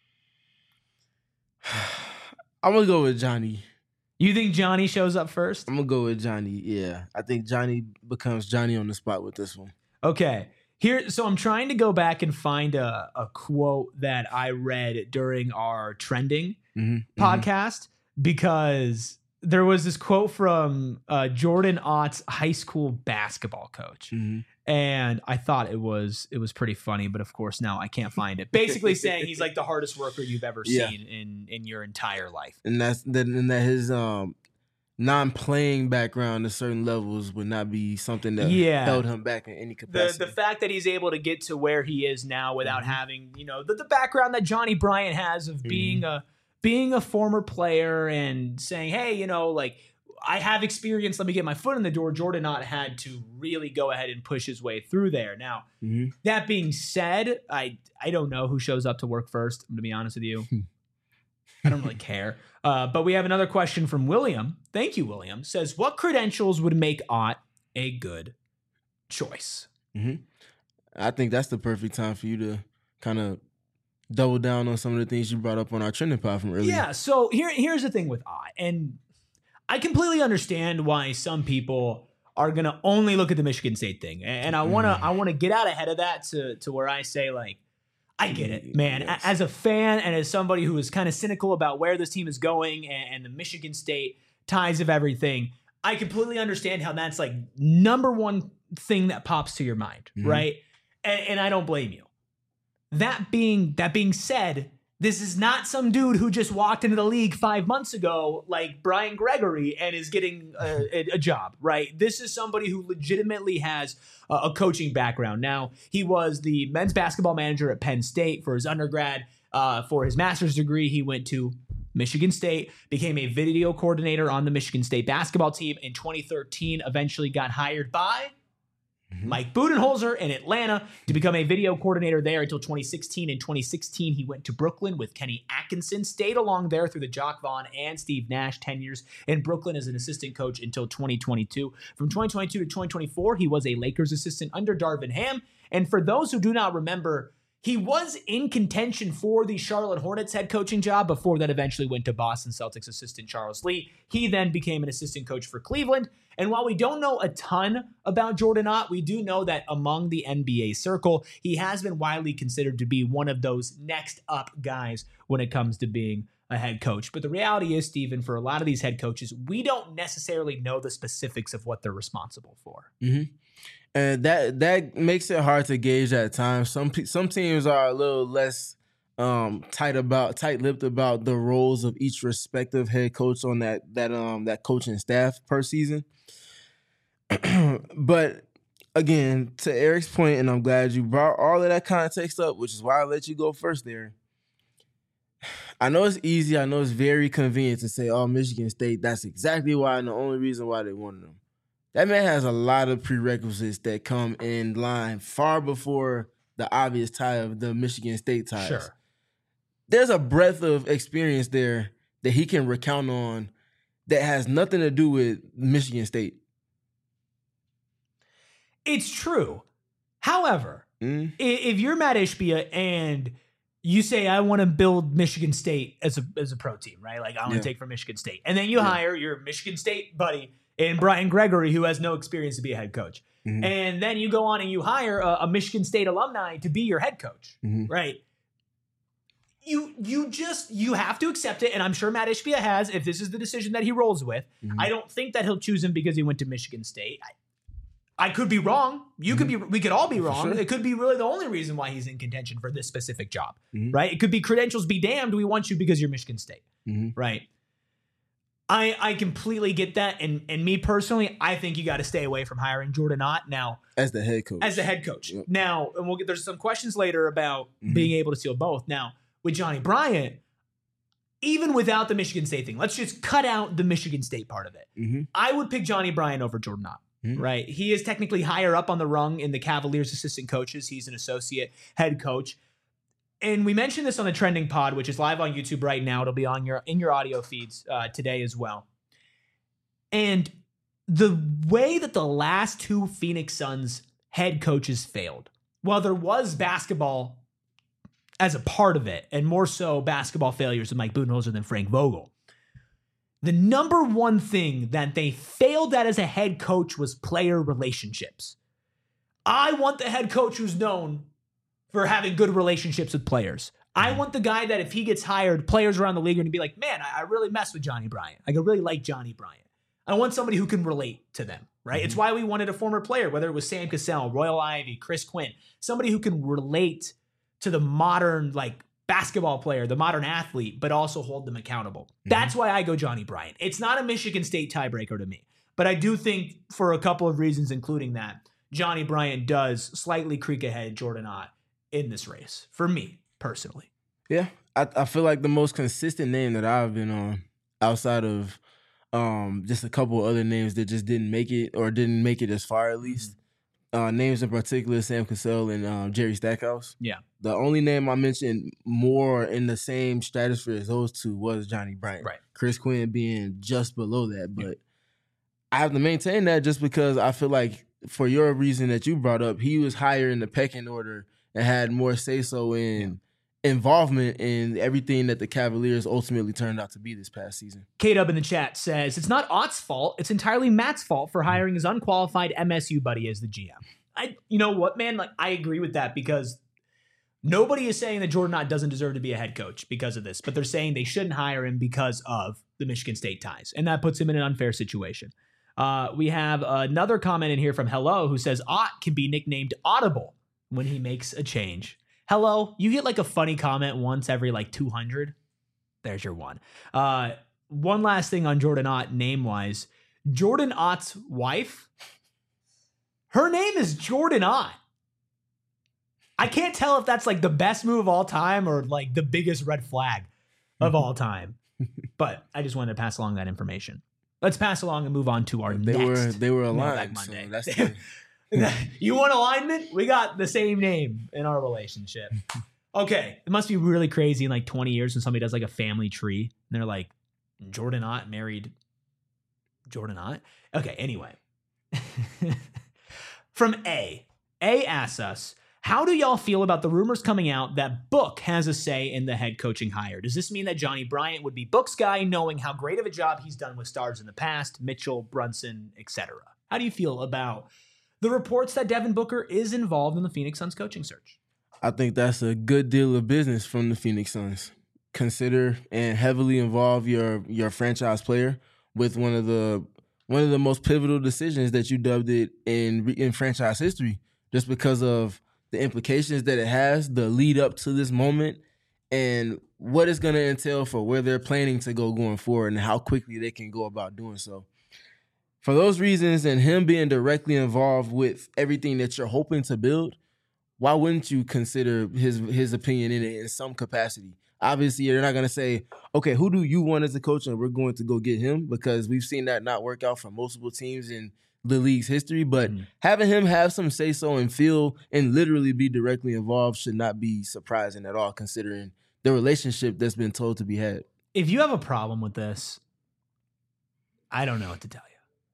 Speaker 2: I'm going to go with Johnny.
Speaker 1: You think Johnny shows up first?
Speaker 2: I'm going to go with Johnny, yeah. I think Johnny becomes Johnny on the spot with this one.
Speaker 1: Okay. So I'm trying to go back and find a quote that I read during our trending podcast because there was this quote from Jordan Ott's high school basketball coach. And I thought it was pretty funny, but of course now I can't find it. Basically saying he's like the hardest worker you've ever seen in your entire life.
Speaker 2: And that his non-playing background to certain levels would not be something that held him back in any capacity.
Speaker 1: The fact that he's able to get to where he is now without having, you know, the background that Johnny Bryant has of being a former player and saying, hey, you know, like, I have experience. Let me get my foot in the door. Jordan Ott had to really go ahead and push his way through there. Now, that being said, I don't know who shows up to work first. I'm going to be honest with you. I don't really care. But we have another question from William. Thank you, William. Says, what credentials would make Ott a good choice?
Speaker 2: I think that's the perfect time for you to kind of double down on some of the things you brought up on our trending pod from earlier.
Speaker 1: Yeah, so here's the thing with Ott. And I completely understand why some people are going to only look at the Michigan State thing. And I want to get out ahead of that to where I say, like, I get it, man. Yes. As a fan and as somebody who is kind of cynical about where this team is going and the Michigan State ties of everything, I completely understand how that's like number one thing that pops to your mind, right? And I don't blame you. That being said, this is not some dude who just walked into the league 5 months ago like Brian Gregory and is getting a job, right? This is somebody who legitimately has a coaching background. Now, he was the men's basketball manager at Penn State for his undergrad. For his master's degree, he went to Michigan State, became a video coordinator on the Michigan State basketball team. In 2013, eventually got hired by Mike Budenholzer in Atlanta to become a video coordinator there until 2016. In 2016, he went to Brooklyn with Kenny Atkinson, stayed along there through the Jock Vaughn and Steve Nash tenures in Brooklyn as an assistant coach until 2022. From 2022 to 2024, he was a Lakers assistant under Darvin Ham. And for those who do not remember, he was in contention for the Charlotte Hornets head coaching job before that eventually went to Boston Celtics assistant Charles Lee. He then became an assistant coach for Cleveland. And while we don't know a ton about Jordan Ott, we do know that among the NBA circle, he has been widely considered to be one of those next up guys when it comes to being a head coach. But the reality is, Stephen, for a lot of these head coaches, we don't necessarily know the specifics of what they're responsible for.
Speaker 2: Mm-hmm. And that makes it hard to gauge at times. Some teams are a little less tight-lipped about the roles of each respective head coach on that coaching staff per season. But again, to Eric's point, and I'm glad you brought all of that context up, which is why I let you go first there. I know it's easy. I know it's very convenient to say, "Oh, Michigan State, that's exactly why and the only reason why they wanted them." That man has a lot of prerequisites that come in line far before the obvious tie of the Michigan State ties.
Speaker 1: Sure.
Speaker 2: There's a breadth of experience there that he can recount on that has nothing to do with Michigan State.
Speaker 1: It's true. However, if you're Matt Ishbia and you say, I want to build Michigan State as a pro team, right? Like, I want to take from Michigan State. And then you hire your Michigan State buddy in Brian Gregory, who has no experience to be a head coach. Mm-hmm. And then you go on and you hire a Michigan State alumni to be your head coach, right? You have to accept it, and I'm sure Matt Ishbia has, if this is the decision that he rolls with. I don't think that he'll choose him because he went to Michigan State. I could be wrong. You could be. We could all be wrong. Sure. It could be really the only reason why he's in contention for this specific job, right? It could be credentials be damned. We want you because you're Michigan State, right? I completely get that, and me personally, I think you got to stay away from hiring Jordan Ott now
Speaker 2: as the head coach.
Speaker 1: Yep. Now, and there's some questions later about being able to steal both. Now, with Johnny Bryant, even without the Michigan State thing, let's just cut out the Michigan State part of it. I would pick Johnny Bryant over Jordan Ott. Right. He is technically higher up on the rung in the Cavaliers assistant coaches. He's an associate head coach. And we mentioned this on the Trending Pod, which is live on YouTube right now. It'll be on in your audio feeds today as well. And the way that the last two Phoenix Suns head coaches failed, while there was basketball as a part of it, and more so basketball failures with Mike Budenholzer than Frank Vogel, the number one thing that they failed at as a head coach was player relationships. I want the head coach who's known for having good relationships with players. I want the guy that if he gets hired, players around the league are going to be like, man, I really mess with Johnny Bryant. I really like Johnny Bryant. I want somebody who can relate to them, right? It's why we wanted a former player, whether it was Sam Cassell, Royal Ivey, Chris Quinn, somebody who can relate to the modern, basketball player, the modern athlete, but also hold them accountable. That's why I go Johnny Bryant. It's not a Michigan State tiebreaker to me, but I do think for a couple of reasons, including that, Johnny Bryant does slightly creak ahead Jordan Ott in this race, for me, personally.
Speaker 2: Yeah, I feel like the most consistent name that I've been on, outside of just a couple other names that just didn't make it, or didn't make it as far at least, names in particular, Sam Cassell and Jerry Stackhouse.
Speaker 1: Yeah.
Speaker 2: The only name I mentioned more in the same stratosphere as those two was Johnny Bryant.
Speaker 1: Right.
Speaker 2: Chris Quinn being just below that. But I have to maintain that just because I feel like for your reason that you brought up, he was higher in the pecking order and had more say-so in involvement in everything that the Cavaliers ultimately turned out to be this past season.
Speaker 1: K-Dub in the chat says, it's not Ott's fault. It's entirely Matt's fault for hiring his unqualified MSU buddy as the GM. You know what, man? I agree with that because nobody is saying that Jordan Ott doesn't deserve to be a head coach because of this, but they're saying they shouldn't hire him because of the Michigan State ties, and that puts him in an unfair situation. We have another comment in here from Hello who says, Ott can be nicknamed Audible when he makes a change. Hello, you get a funny comment once every 200. There's your one. One last thing on Jordan Ott name-wise. Jordan Ott's wife, her name is Jordan Ott. I can't tell if that's like the best move of all time or like the biggest red flag of all time. But I just wanted to pass along that information. Let's pass along and move on to our next.
Speaker 2: They were
Speaker 1: Mailbag
Speaker 2: aligned. So
Speaker 1: Monday.
Speaker 2: that's the,
Speaker 1: You want alignment? We got the same name in our relationship. Okay. It must be really crazy in like 20 years when somebody does like a family tree and they're like, Jordan Ott married Jordan Ott? Okay, anyway. From A asks us, how do y'all feel about the rumors coming out that Book has a say in the head coaching hire? Does this mean that Johnny Bryant would be Book's guy, knowing how great of a job he's done with stars in the past, Mitchell, Brunson, etc.? How do you feel about the reports that Devin Booker is involved in the Phoenix Suns coaching search?
Speaker 2: I think that's a good deal of business from the Phoenix Suns. Consider and heavily involve your franchise player with one of the most pivotal decisions that you dubbed it in franchise history, just because of the implications that it has, the lead up to this moment, and what it's going to entail for where they're planning to go going forward and how quickly they can go about doing so. For those reasons, and him being directly involved with everything that you're hoping to build, why wouldn't you consider his opinion in it in some capacity? Obviously, you're not going to say, okay, who do you want as a coach, and we're going to go get him, because we've seen that not work out for multiple teams in the league's history. But having him have some say-so and feel and literally be directly involved should not be surprising at all, considering the relationship that's been told to be had.
Speaker 1: If you have a problem with this, I don't know what to tell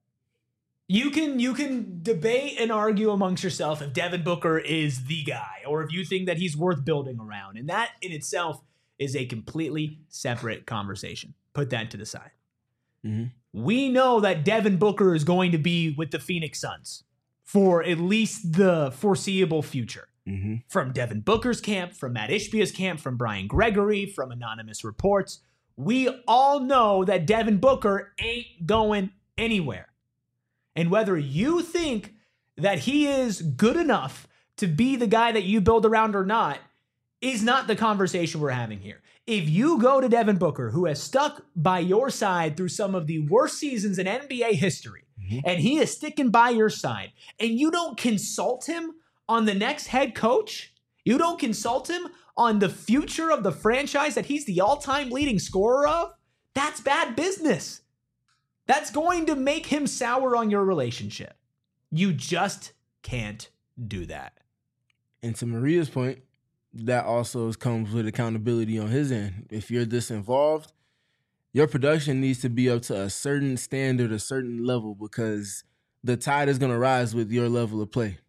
Speaker 1: you. You can debate and argue amongst yourself if Devin Booker is the guy or if you think that he's worth building around. And that in itself is a completely separate conversation. Put that to the side. Mm-hmm. We know that Devin Booker is going to be with the Phoenix Suns for at least the foreseeable future. Mm-hmm. From Devin Booker's camp, from Matt Ishbia's camp, from Brian Gregory, from anonymous reports, we all know that Devin Booker ain't going anywhere. And whether you think that he is good enough to be the guy that you build around or not is not the conversation we're having here. If you go to Devin Booker, who has stuck by your side through some of the worst seasons in NBA history, and he is sticking by your side, and you don't consult him on the next head coach, you don't consult him on the future of the franchise that he's the all-time leading scorer of, that's bad business. That's going to make him sour on your relationship. You just can't do that.
Speaker 2: And to Maria's point, that also comes with accountability on his end. If you're this involved, your production needs to be up to a certain standard, a certain level, because the tide is going to rise with your level of play.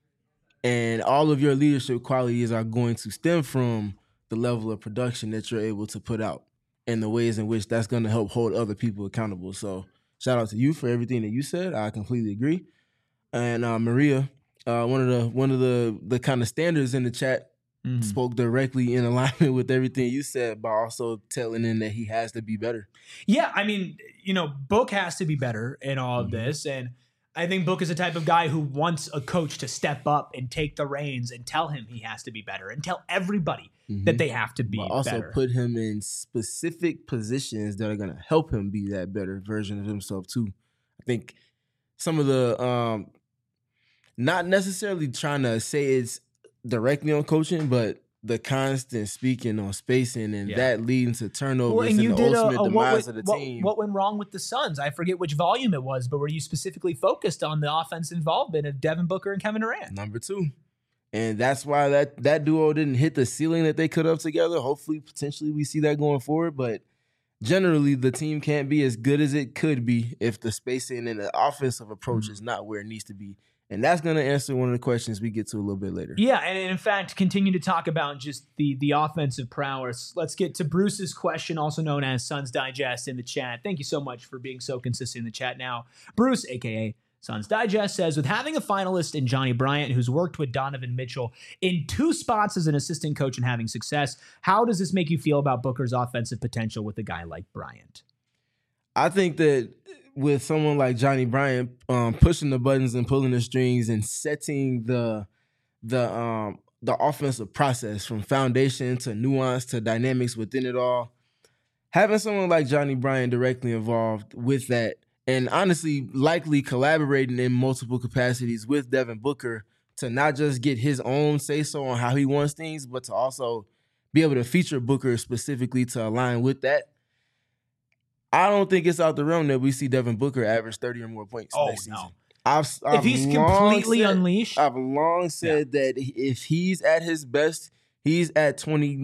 Speaker 2: And all of your leadership qualities are going to stem from the level of production that you're able to put out and the ways in which that's going to help hold other people accountable. So shout out to you for everything that you said. I completely agree. And Maria, one of the kind of standards in the chat spoke directly in alignment with everything you said, by also telling him that he has to be better.
Speaker 1: Yeah, I mean, Book has to be better in all of this. And I think Book is the type of guy who wants a coach to step up and take the reins and tell him he has to be better and tell everybody that they have to be better.
Speaker 2: Also put him in specific positions that are going to help him be that better version of himself too. I think some of the, not necessarily trying to say it's directly on coaching, but the constant speaking on spacing and that leading to turnovers and the ultimate demise of the team.
Speaker 1: What went wrong with the Suns? I forget which volume it was, but were you specifically focused on the offense involvement of Devin Booker and Kevin Durant?
Speaker 2: Number 2. And that's why that duo didn't hit the ceiling that they could have together. Hopefully, potentially, we see that going forward. But generally, the team can't be as good as it could be if the spacing and the offensive approach is not where it needs to be. And that's going to answer one of the questions we get to a little bit later.
Speaker 1: Yeah, and in fact, continue to talk about just the offensive prowess. Let's get to Bruce's question, also known as Suns Digest, in the chat. Thank you so much for being so consistent in the chat now. Bruce, a.k.a. Suns Digest, says, with having a finalist in Johnny Bryant, who's worked with Donovan Mitchell in 2 spots as an assistant coach and having success, how does this make you feel about Booker's offensive potential with a guy like Bryant?
Speaker 2: I think that with someone like Johnny Bryant pushing the buttons and pulling the strings and setting the offensive process from foundation to nuance to dynamics within it all, having someone like Johnny Bryant directly involved with that, and honestly likely collaborating in multiple capacities with Devin Booker to not just get his own say-so on how he wants things, but to also be able to feature Booker specifically to align with that. I don't think it's out the realm that we see Devin Booker average 30 or more points next season.
Speaker 1: If he's completely unleashed.
Speaker 2: I've long said that if he's at his best, he's at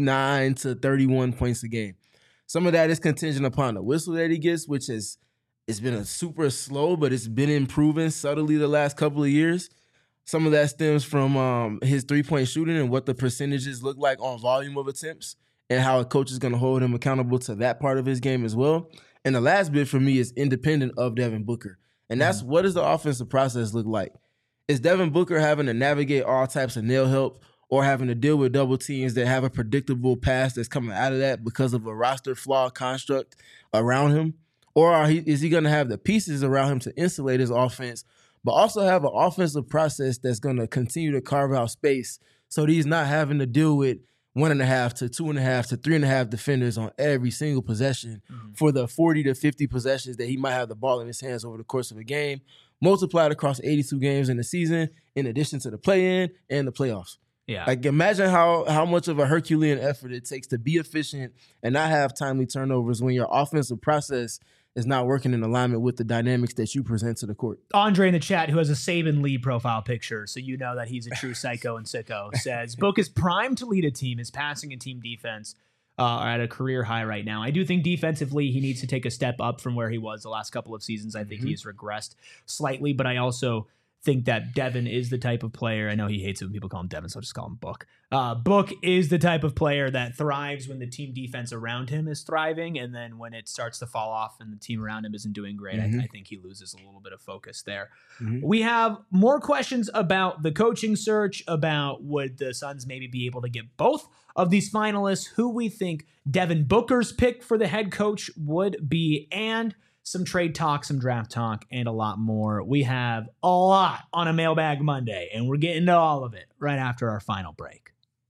Speaker 2: 29 to 31 points a game. Some of that is contingent upon the whistle that he gets, which it's been a super slow, but it's been improving subtly the last couple of years. Some of that stems from his three-point shooting and what the percentages look like on volume of attempts and how a coach is going to hold him accountable to that part of his game as well. And the last bit for me is independent of Devin Booker. And that's what does the offensive process look like? Is Devin Booker having to navigate all types of nail help or having to deal with double teams that have a predictable pass that's coming out of that because of a roster flaw construct around him? Or is he going to have the pieces around him to insulate his offense, but also have an offensive process that's going to continue to carve out space so that he's not having to deal with 1.5 to 2.5 to 3.5 defenders on every single possession for the 40 to 50 possessions that he might have the ball in his hands over the course of a game, multiplied across 82 games in the season, in addition to the play-in and the playoffs.
Speaker 1: Yeah.
Speaker 2: Like, imagine how much of a Herculean effort it takes to be efficient and not have timely turnovers when your offensive process is not working in alignment with the dynamics that you present to the court.
Speaker 1: Andre in the chat, who has a Saban Lee profile picture, so you know that he's a true psycho and sicko, says, Book is primed to lead a team. His passing and team defense are at a career high right now. I do think defensively he needs to take a step up from where he was the last couple of seasons. I think he has regressed slightly, but I also think that Devin is the type of player. I know he hates it when people call him Devin, so I'll just call him Book. Book is the type of player that thrives when the team defense around him is thriving, and then when it starts to fall off and the team around him isn't doing great, I think he loses a little bit of focus there. We have more questions about the coaching search, about would the Suns maybe be able to get both of these finalists, who we think Devin Booker's pick for the head coach would be, and some trade talk, some draft talk, and a lot more. We have a lot on a Mailbag Monday, and we're getting to all of it right after our final break.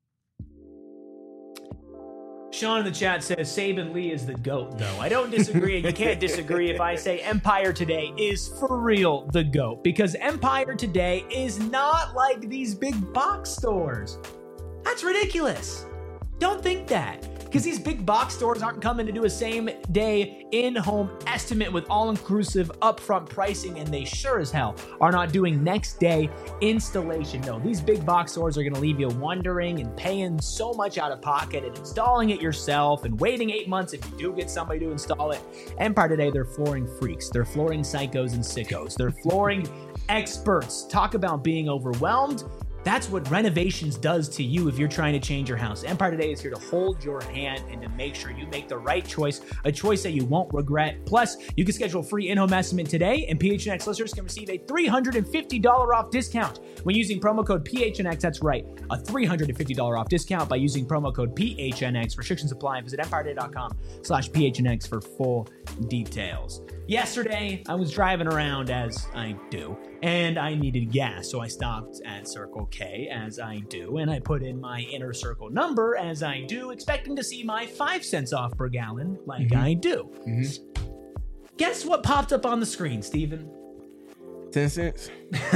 Speaker 1: Sean in the chat says Saban Lee is the GOAT, though. I don't disagree. You can't disagree if I say Empire Today is for real the GOAT, because Empire Today is not like these big box stores. That's ridiculous. Don't think that. Because these big box stores aren't coming to do a same-day in-home estimate with all-inclusive upfront pricing, and they sure as hell are not doing next-day installation. No, these big box stores are going to leave you wondering and paying so much out of pocket and installing it yourself and waiting 8 months if you do get somebody to install it. Empire Today, they're flooring freaks. They're flooring psychos and sickos. They're flooring experts. Talk about being overwhelmed. That's what renovations does to you if you're trying to change your house. Empire Today is here to hold your hand and to make sure you make the right choice, a choice that you won't regret. Plus, you can schedule a free in-home estimate today, and PHNX listeners can receive a $350 off discount when using promo code PHNX. That's right, a $350 off discount by using promo code PHNX. Restrictions apply. Visit EmpireToday.com/PHNX for full details. Yesterday, I was driving around, as I do, and I needed gas, so I stopped at Circle K, as I do, and I put in my Inner Circle number, as I do, expecting to see my 5 cents off per gallon, like I do. Guess what popped up on the screen, Steven?
Speaker 2: 10 cents?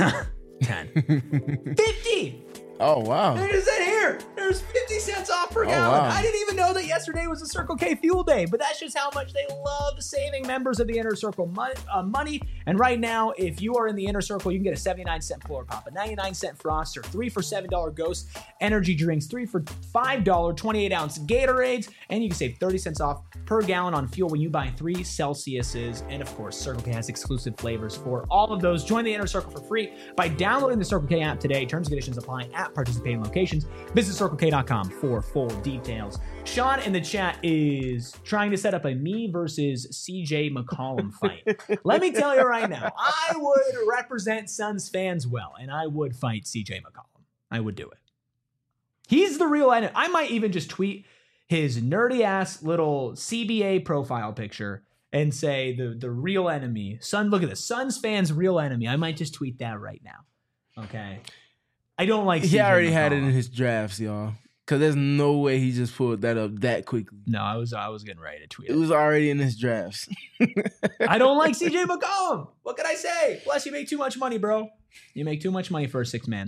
Speaker 1: 10. 50!
Speaker 2: Oh, wow.
Speaker 1: It is in here. There's 50 cents off per gallon.
Speaker 2: Wow.
Speaker 1: I didn't even know that yesterday was a Circle K fuel day, but that's just how much they love saving members of the Inner Circle money. And right now, if you are in the Inner Circle, you can get a 79-cent floor pop, a 99-cent Froster, 3 for $7 Ghost energy drinks, 3 for $5 28-ounce Gatorades, and you can save 30 cents off per gallon on fuel when you buy 3 Celsiuses. And of course, Circle K has exclusive flavors for all of those. Join the Inner Circle for free by downloading the Circle K app today. Terms and conditions apply at participating locations. Visit CircleK.com for full details. Sean in the chat is trying to set up a me versus CJ McCollum fight. Let me tell you right now, I would represent Suns fans well, and I would fight CJ McCollum. I would do it. He's the real enemy. I might even just tweet his nerdy ass little CBA profile picture and say the real enemy. Look at this. Suns fans' real enemy. I might just tweet that right now. Okay. I don't like
Speaker 2: He
Speaker 1: CJ
Speaker 2: already
Speaker 1: McCollum.
Speaker 2: had it in his drafts, y'all. Because there's no way he just pulled that up that quickly.
Speaker 1: No, I was getting ready to tweet
Speaker 2: it. It was already in his drafts.
Speaker 1: I don't like CJ McCollum. What can I say? Plus, you make too much money, bro. You make too much money for a 6-man.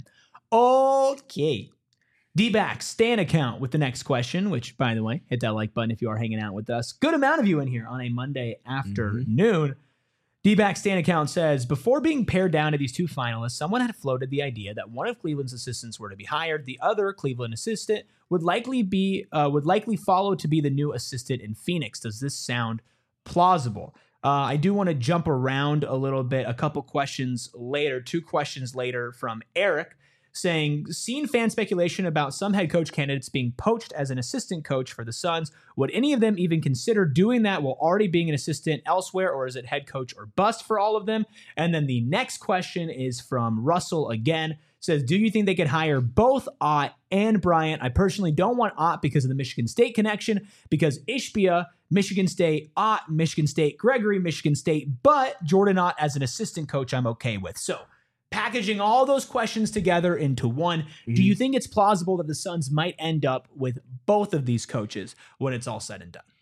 Speaker 1: Okay. D-Back, Stan account with the next question, which, by the way, hit that like button if you are hanging out with us. Good amount of you in here on a Monday afternoon. D-Back Stan account says, before being paired down to these two finalists, someone had floated the idea that one of Cleveland's assistants were to be hired. The other Cleveland assistant would likely follow to be the new assistant in Phoenix. Does this sound plausible? I do want to jump around a little bit. A couple questions later, 2 questions later from Eric, saying, seen fan speculation about some head coach candidates being poached as an assistant coach for the Suns. Would any of them even consider doing that while already being an assistant elsewhere, or is it head coach or bust for all of them? And then the next question is from Russell again. Says, do you think they could hire both Ott and Bryant? I personally don't want Ott because of the Michigan State connection, because Ishbia, Michigan State, Ott, Michigan State, Gregory, Michigan State, but Jordan Ott as an assistant coach I'm okay with. So, packaging all those questions together into one, do you think it's plausible that the Suns might end up with both of these coaches when it's all said and done?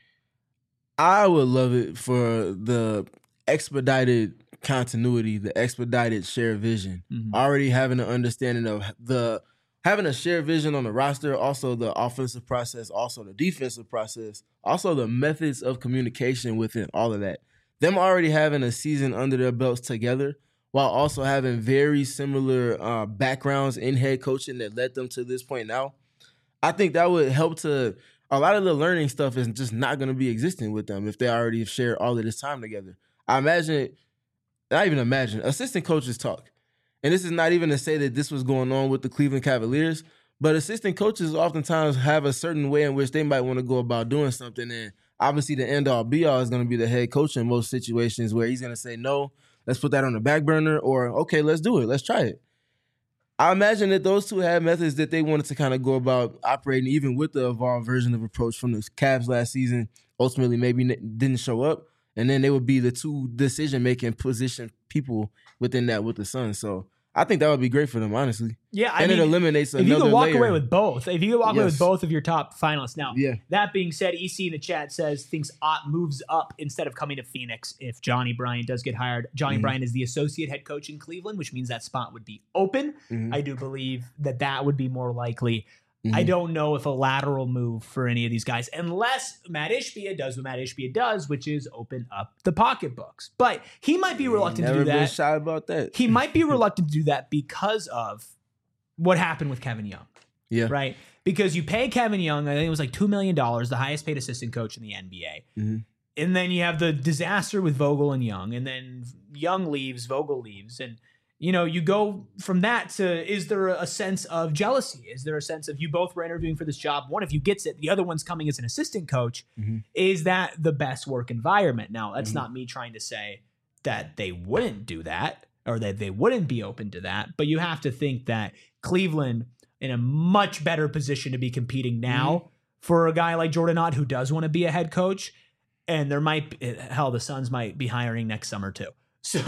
Speaker 2: I would love it for the expedited continuity, the expedited shared vision. Already having an understanding of having a shared vision on the roster, also the offensive process, also the defensive process, also the methods of communication within all of that. Them already having a season under their belts together, while also having very similar backgrounds in head coaching that led them to this point now. I think that would help to – a lot of the learning stuff is just not going to be existing with them if they already have shared all of this time together. I imagine – not even imagine – assistant coaches talk. And this is not even to say that this was going on with the Cleveland Cavaliers, but assistant coaches oftentimes have a certain way in which they might want to go about doing something. And obviously the end-all, be-all is going to be the head coach in most situations where he's going to say no – let's put that on the back burner, or, okay, let's do it. Let's try it. I imagine that those two had methods that they wanted to kind of go about operating, even with the evolved version of approach from the Cavs last season. Ultimately, maybe didn't show up. And then they would be the two decision-making position people within that with the Suns. So I think that would be great for them, honestly.
Speaker 1: Yeah,
Speaker 2: it eliminates another layer.
Speaker 1: If you could walk away with both, with both of your top finalists. Now,
Speaker 2: yeah.
Speaker 1: That being said, EC in the chat says thinks Ott moves up instead of coming to Phoenix if Johnny Bryant does get hired. Johnny Bryant is the associate head coach in Cleveland, which means that spot would be open. I do believe that would be more likely. I don't know if a lateral move for any of these guys, unless Matt Ishbia does what Matt Ishbia does, which is open up the pocketbooks. But he might be reluctant to do that.
Speaker 2: Never been shy about that.
Speaker 1: He might be reluctant to do that because of what happened with Kevin Young.
Speaker 2: Yeah.
Speaker 1: Right? Because you pay Kevin Young, I think it was like $2 million, the highest paid assistant coach in the NBA. And then you have the disaster with Vogel and Young, and then Young leaves, Vogel leaves, and you go from that to, is there a sense of jealousy? Is there a sense of you both were interviewing for this job? One of you gets it. The other one's coming as an assistant coach. Is that the best work environment? Now, that's not me trying to say that they wouldn't do that or that they wouldn't be open to that. But you have to think that Cleveland in a much better position to be competing now for a guy like Jordan Ott who does want to be a head coach. And the Suns might be hiring next summer too. So,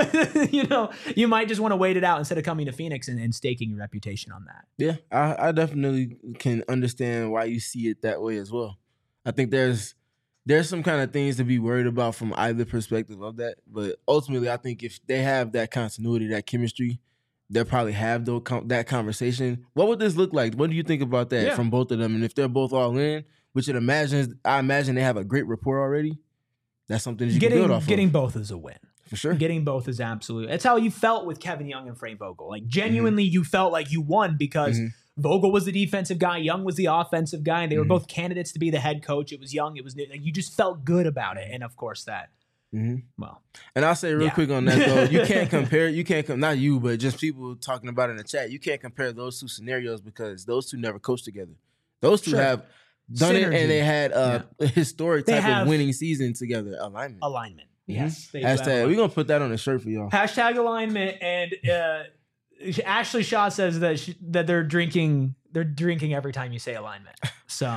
Speaker 1: you might just want to wait it out instead of coming to Phoenix and staking your reputation on that.
Speaker 2: Yeah, I definitely can understand why you see it that way as well. I think there's some kind of things to be worried about from either perspective of that. But ultimately, I think if they have that continuity, that chemistry, they'll probably have that conversation. What would this look like? What do you think about that from both of them? And if they're both all in, which I imagine they have a great rapport already, that's something you can build off of.
Speaker 1: Getting both is a win.
Speaker 2: For sure.
Speaker 1: Getting both is absolute. That's how you felt with Kevin Young and Frank Vogel. Like, genuinely, you felt like you won because Vogel was the defensive guy, Young was the offensive guy, and they were both candidates to be the head coach. It was Young, it was new. Like, you just felt good about it. And of course that, well.
Speaker 2: And I'll say real quick on that, though, you can't compare, not you, but just people talking about it in the chat, you can't compare those two scenarios because those two never coached together. Those two have done
Speaker 1: Synergy.
Speaker 2: It, and they had a historic type of winning season together. Alignment.
Speaker 1: Yes.
Speaker 2: Hashtag. We're going to put that on a shirt for y'all.
Speaker 1: Hashtag alignment. And Ashley Shaw says that they're drinking every time you say alignment. So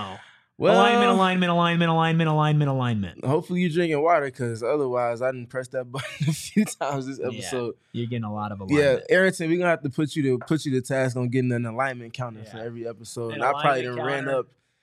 Speaker 1: alignment.
Speaker 2: Hopefully you're drinking water because otherwise I didn't press that button a few times this episode.
Speaker 1: Yeah, you're getting a lot of alignment.
Speaker 2: Yeah, Arrington, we're going to have to put you to task on getting an alignment counter for every episode. And I probably done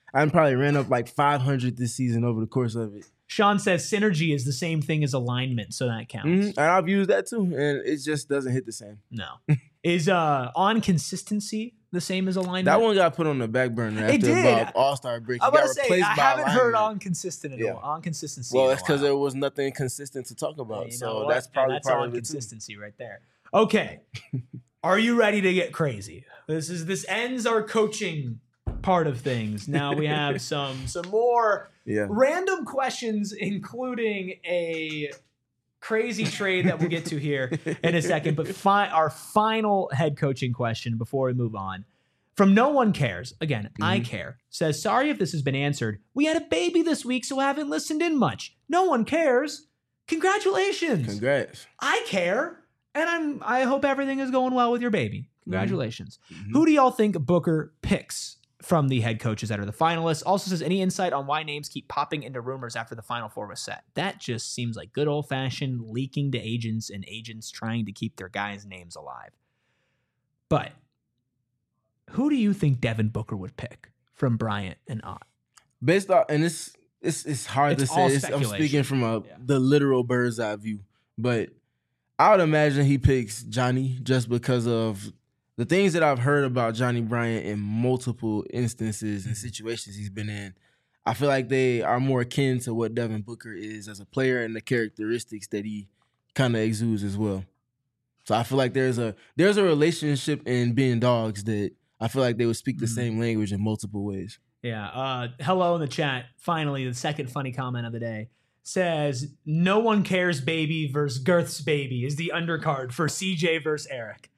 Speaker 2: I probably ran up like 500 this season over the course of it.
Speaker 1: Sean says synergy is the same thing as alignment, so that counts.
Speaker 2: And I've used that too, and it just doesn't hit the same.
Speaker 1: No. Is on consistency the same as alignment?
Speaker 2: That one got put on the back burner after about All-Star break.
Speaker 1: I was about to say, I haven't heard on consistency.
Speaker 2: Well, it's because there was nothing consistent to talk about. So that's probably part of it
Speaker 1: consistency right there. Okay. Are you ready to get crazy? This ends our coaching part of things. Now we have some more random questions, including a crazy trade that we'll get to here in a second. But our final head coaching question before we move on. From No One Cares, again, I care, says, sorry if this has been answered. We had a baby this week, so I haven't listened in much. No one cares. Congratulations.
Speaker 2: Congrats.
Speaker 1: I care, and I hope everything is going well with your baby. Congratulations. Who do y'all think Booker picks from the head coaches that are the finalists? Also says, any insight on why names keep popping into rumors after the Final Four was set? That just seems like good old-fashioned leaking to agents and agents trying to keep their guys' names alive. But who do you think Devin Booker would pick from Bryant and Ott?
Speaker 2: Based on, and it's hard to say. I'm speaking from the literal bird's eye view, but I would imagine he picks Johnny just because of the things that I've heard about Johnny Bryant in multiple instances and situations he's been in. I feel like they are more akin to what Devin Booker is as a player and the characteristics that he kind of exudes as well. So I feel like there's a relationship in being dogs that I feel like they would speak the same language in multiple ways.
Speaker 1: Yeah. Hello in the chat. Finally, the second funny comment of the day says, No One Cares baby versus Girth's baby is the undercard for CJ versus Eric.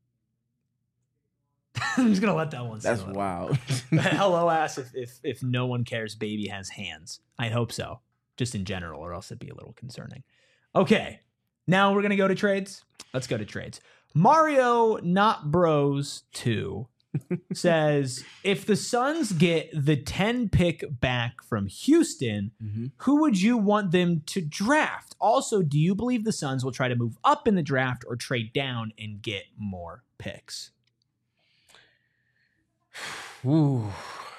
Speaker 1: I'm just going to let that one
Speaker 2: That's wild.
Speaker 1: Hello asks if No One Cares baby has hands. I hope so. Just in general, or else it'd be a little concerning. Okay. Now we're going to go to trades. Let's go to trades. Mario Not Bros 2 says, if the Suns get the 10 pick back from Houston, who would you want them to draft? Also, do you believe the Suns will try to move up in the draft or trade down and get more picks?
Speaker 2: Ooh.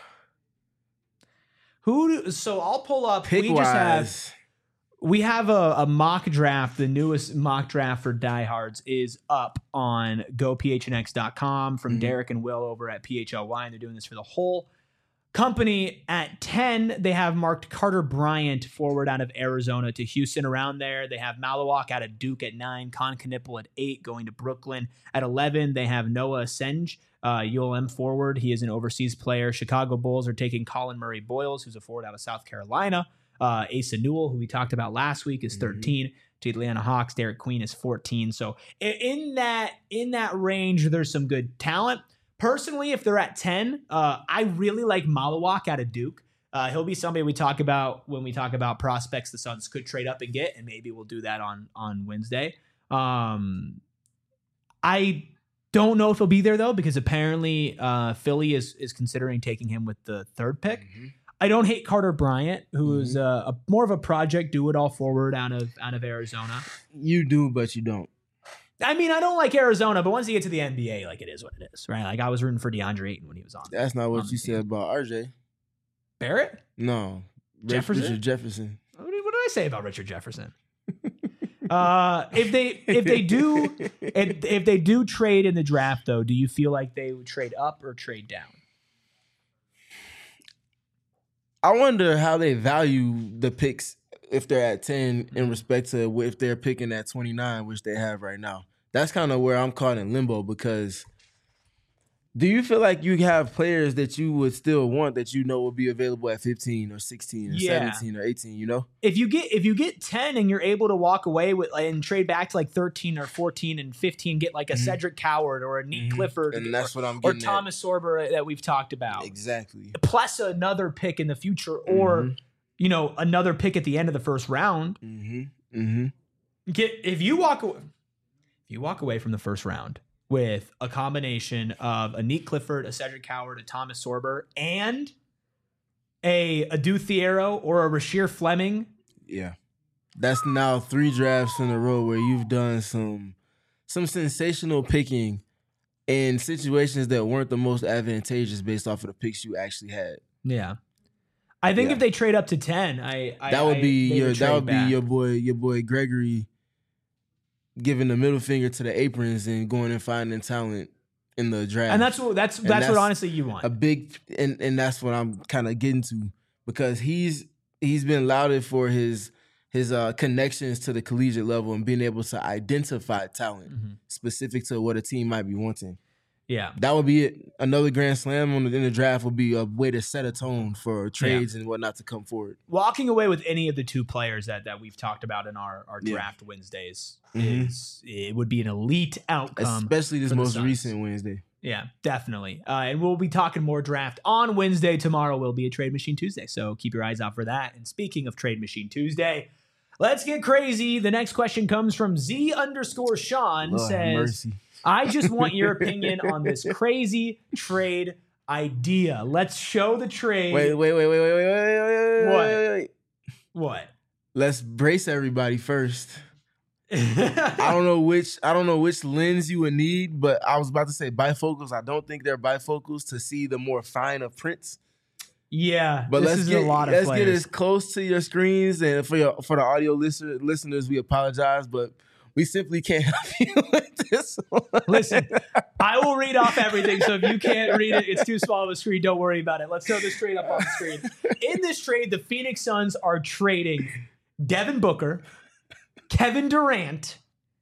Speaker 1: So I'll pull up.
Speaker 2: Pick-wise.
Speaker 1: We have a mock draft. The newest mock draft for diehards is up on gophnx.com from Derek and Will over at PHLY, and they're doing this for the whole company. At 10, they have marked Carter Bryant, forward out of Arizona to Houston. Around there, they have Malawak out of Duke at 9, Con Knipple at 8, going to Brooklyn. At 11, they have Noah Asenge, ULM forward. He is an overseas player. Chicago Bulls are taking Colin Murray Boyles, who's a forward out of South Carolina. Asa Newell, who we talked about last week, is 13. To Atlanta Hawks, Derek Queen is 14. So in that range, there's some good talent. Personally, if they're at 10, I really like Malawak out of Duke. He'll be somebody we talk about when we talk about prospects the Suns could trade up and get, and maybe we'll do that on Wednesday. I don't know if he'll be there, though, because apparently Philly is considering taking him with the 3rd pick. I don't hate Carter Bryant, who is more of a project do-it-all forward out of Arizona.
Speaker 2: You do, but you don't.
Speaker 1: I mean, I don't like Arizona, but once you get to the NBA, like, it is what it is, right? Like, I was rooting for DeAndre Ayton when he was on.
Speaker 2: That's not what you said about RJ
Speaker 1: Barrett.
Speaker 2: No,
Speaker 1: Jefferson.
Speaker 2: Richard Jefferson.
Speaker 1: What did I say about Richard Jefferson? If they do trade in the draft, though, do you feel like they would trade up or trade down?
Speaker 2: I wonder how they value the picks if they're at 10 in respect to if they're picking at 29, which they have right now. That's kind of where I'm caught in limbo, because do you feel like you have players that you would still want that you know will be available at 15 or 16 or 17 or 18, you know?
Speaker 1: If you get 10 and you're able to walk away with and trade back to like 13 or 14 and 15, get like a Cedric Coward or a Neat Clifford,
Speaker 2: and that's what I'm getting
Speaker 1: or Thomas Sorber that we've talked about.
Speaker 2: Exactly.
Speaker 1: Plus another pick in the future, or another pick at the end of the first round. If you walk away from the first round with a combination of a Neat Clifford, a Cedric Coward, a Thomas Sorber, and a Adu Thiero or a Rasheer Fleming.
Speaker 2: Yeah. That's now 3 drafts in a row where you've done some sensational picking in situations that weren't the most advantageous based off of the picks you actually had.
Speaker 1: Yeah. I think if they trade up to 10,
Speaker 2: that would be your boy Gregory giving the middle finger to the Aprons and going and finding talent in the draft.
Speaker 1: And that's what honestly you want.
Speaker 2: A big and that's what I'm kind of getting to, because he's been lauded for his connections to the collegiate level and being able to identify talent specific to what a team might be wanting.
Speaker 1: Yeah.
Speaker 2: That would be it. Another grand slam in the draft would be a way to set a tone for trades and whatnot to come forward.
Speaker 1: Walking away with any of the two players that we've talked about in our draft Wednesdays it would be an elite outcome.
Speaker 2: Especially this most recent Wednesday.
Speaker 1: Yeah, definitely. And we'll be talking more draft on Wednesday. Tomorrow will be a Trade Machine Tuesday, so keep your eyes out for that. And speaking of Trade Machine Tuesday, let's get crazy. The next question comes from Z_Sean. Says, mercy. I just want your opinion on this crazy trade idea. Let's show the trade.
Speaker 2: Wait.
Speaker 1: What?
Speaker 2: Let's brace everybody first. I don't know which lens you would need, but I was about to say bifocals. I don't think they're bifocals to see the more fine of prints.
Speaker 1: Yeah,
Speaker 2: but let's get as close to your screens, and for the audio listeners, we apologize, but we simply can't help you with this one.
Speaker 1: Listen, I will read off everything, so if you can't read it, it's too small of a screen, don't worry about it. Let's throw this trade up on the screen. In this trade, the Phoenix Suns are trading Devin Booker, Kevin Durant,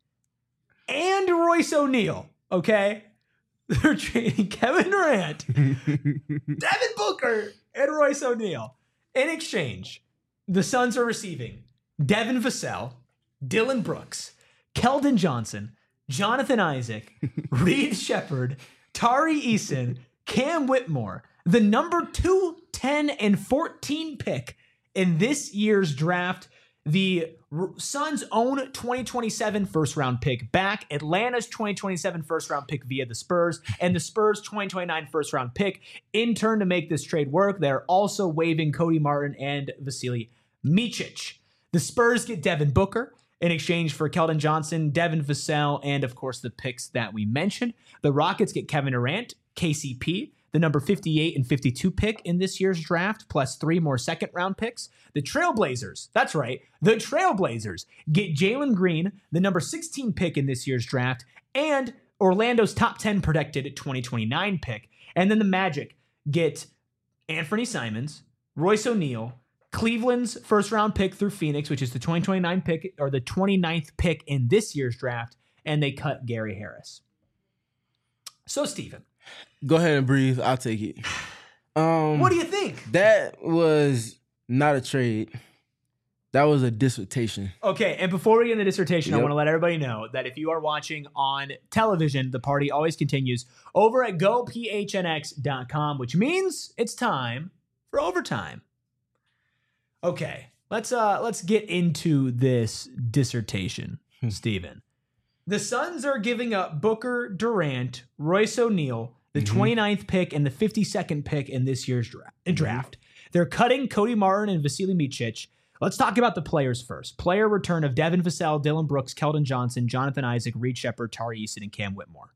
Speaker 1: and Royce O'Neal, okay? They're trading Kevin Durant, Devin Booker, and Royce O'Neal. In exchange, the Suns are receiving Devin Vassell, Dillon Brooks, Keldon Johnson, Jonathan Isaac, Reed Sheppard, Tari Eason, Cam Whitmore, the number 2, 10, and 14 pick in this year's draft, the Suns' own 2027 first-round pick back, Atlanta's 2027 first-round pick via the Spurs, and the Spurs' 2029 first-round pick. In turn, to make this trade work, they're also waiving Cody Martin and Vasilije Micic. The Spurs get Devin Booker in exchange for Keldon Johnson, Devin Vassell, and, of course, the picks that we mentioned. The Rockets get Kevin Durant, KCP, the number 58 and 52 pick in this year's draft, plus 3 more second-round picks. The Trailblazers, that's right, the Trailblazers get Jalen Green, the number 16 pick in this year's draft, and Orlando's top 10 protected 2029 pick. And then the Magic get Anthony Simons, Royce O'Neal, Cleveland's first-round pick through Phoenix, which is the 2029 pick, or the 29th pick in this year's draft, and they cut Gary Harris. So, Steven.
Speaker 2: Go ahead and breathe. I'll take it.
Speaker 1: What do you think?
Speaker 2: That was not a trade. That was a dissertation.
Speaker 1: Okay, and before we get into dissertation, I want to let everybody know that if you are watching on television, the party always continues over at gophnx.com, which means it's time for overtime. Okay, let's get into this dissertation, Steven. The Suns are giving up Booker, Durant, Royce O'Neal, the 29th pick and the 52nd pick in this year's draft. They're cutting Cody Martin and Vasilije Micic. Let's talk about the players first. Player return of Devin Vassell, Dillon Brooks, Keldon Johnson, Jonathan Isaac, Reed Sheppard, Tari Eason, and Cam Whitmore.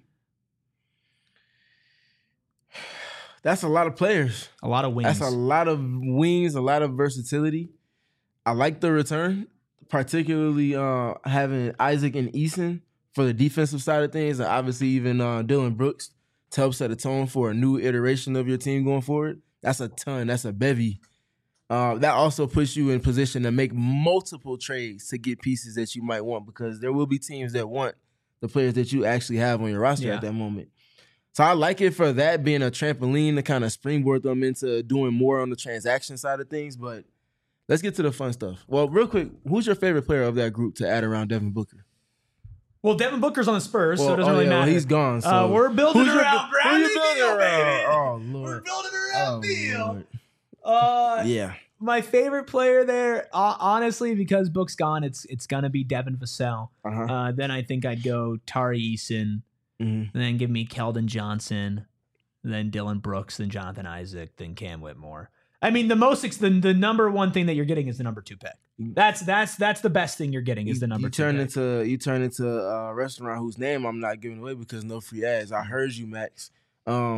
Speaker 2: That's a lot of players.
Speaker 1: A lot of wings.
Speaker 2: That's a lot of wings, a lot of versatility. I like the return, particularly having Isaac and Eason for the defensive side of things, and obviously even Dillon Brooks to help set a tone for a new iteration of your team going forward. That's a ton. That's a bevy. That also puts you in position to make multiple trades to get pieces that you might want, because there will be teams that want the players that you actually have on your roster at that moment. So I like it for that being a trampoline to kind of springboard them into doing more on the transaction side of things. But let's get to the fun stuff. Well, real quick, who's your favorite player of that group to add around Devin Booker?
Speaker 1: Well, Devin Booker's on the Spurs, so it doesn't really matter.
Speaker 2: Well, he's gone. So
Speaker 1: we're building around Bradley Beal, baby.
Speaker 2: Oh, Lord.
Speaker 1: We're building around Beal.
Speaker 2: Yeah.
Speaker 1: My favorite player there, honestly, because Book's gone, it's gonna be Devin Vassell. Then I think I'd go Tari Eason, and then give me Keldon Johnson, then Dillon Brooks, then Jonathan Isaac, then Cam Whitmore. I mean, the number one thing that you're getting is the number 2 pick. That's the best thing you're getting is the number 2 pick.
Speaker 2: You turn into a restaurant whose name I'm not giving away because no free ads. I heard you, Max.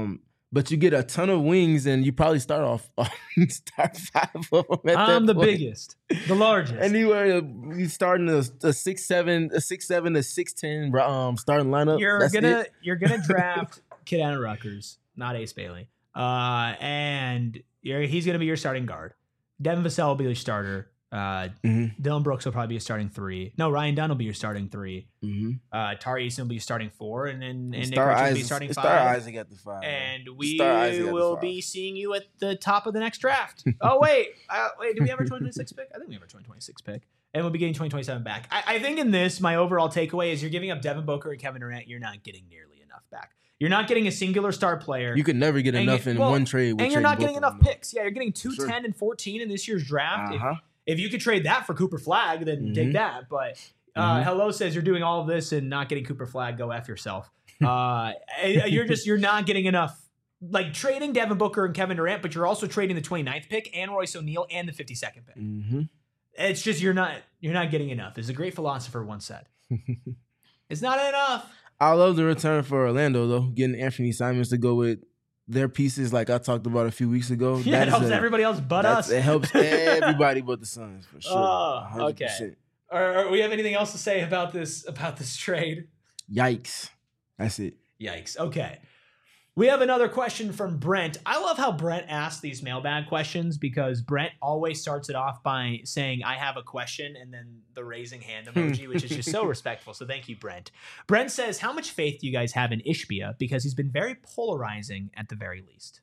Speaker 2: but you get a ton of wings, and you probably start 5 of them.
Speaker 1: I'm the biggest, the largest.
Speaker 2: Anywhere you starting a 6'7", a 6'7" to 6'10" starting lineup.
Speaker 1: You're gonna draft Kid out of Rutgers, not Ace Bailey, and he's gonna be your starting guard. Devin Vassell will be your starter. Dylan Brooks will probably be a starting 3. No, Ryan Dunn will be your starting 3. Tari Eason will be your starting 4, and Nick Richards will be starting 5.
Speaker 2: Start Isaac at the 5.
Speaker 1: And we will be seeing you at the top of the next draft. Oh wait, do we have our 2026 pick? I think we have our 2026 pick, and we'll be getting 2027 back. I think in this, my overall takeaway is you're giving up Devin Booker and Kevin Durant. You're not getting nearly enough back. You're not getting a singular star player.
Speaker 2: You could never get enough in one trade.
Speaker 1: And you're not getting enough picks. Yeah, you're getting 2, 10, and 14 in this year's draft. If you could trade that for Cooper Flagg, then take that. But Hello says you're doing all of this and not getting Cooper Flagg. Go F yourself. You're not getting enough. Like trading Devin Booker and Kevin Durant, but you're also trading the 29th pick and Royce O'Neal and the 52nd pick. It's just you're not getting enough. As a great philosopher once said, it's not enough.
Speaker 2: I love the return for Orlando though, getting Anthony Simons to go with their pieces, like I talked about a few weeks ago.
Speaker 1: Yeah, it helps everybody else but us.
Speaker 2: It helps everybody but the Suns for sure.
Speaker 1: Oh, okay. We have anything else to say about this trade?
Speaker 2: Yikes! That's it.
Speaker 1: Yikes. Okay. We have another question from Brent. I love how Brent asks these mailbag questions because Brent always starts it off by saying, I have a question, and then the raising hand emoji, which is just so respectful. So thank you, Brent. Brent says, how much faith do you guys have in Ishbia? Because he's been very polarizing at the very least.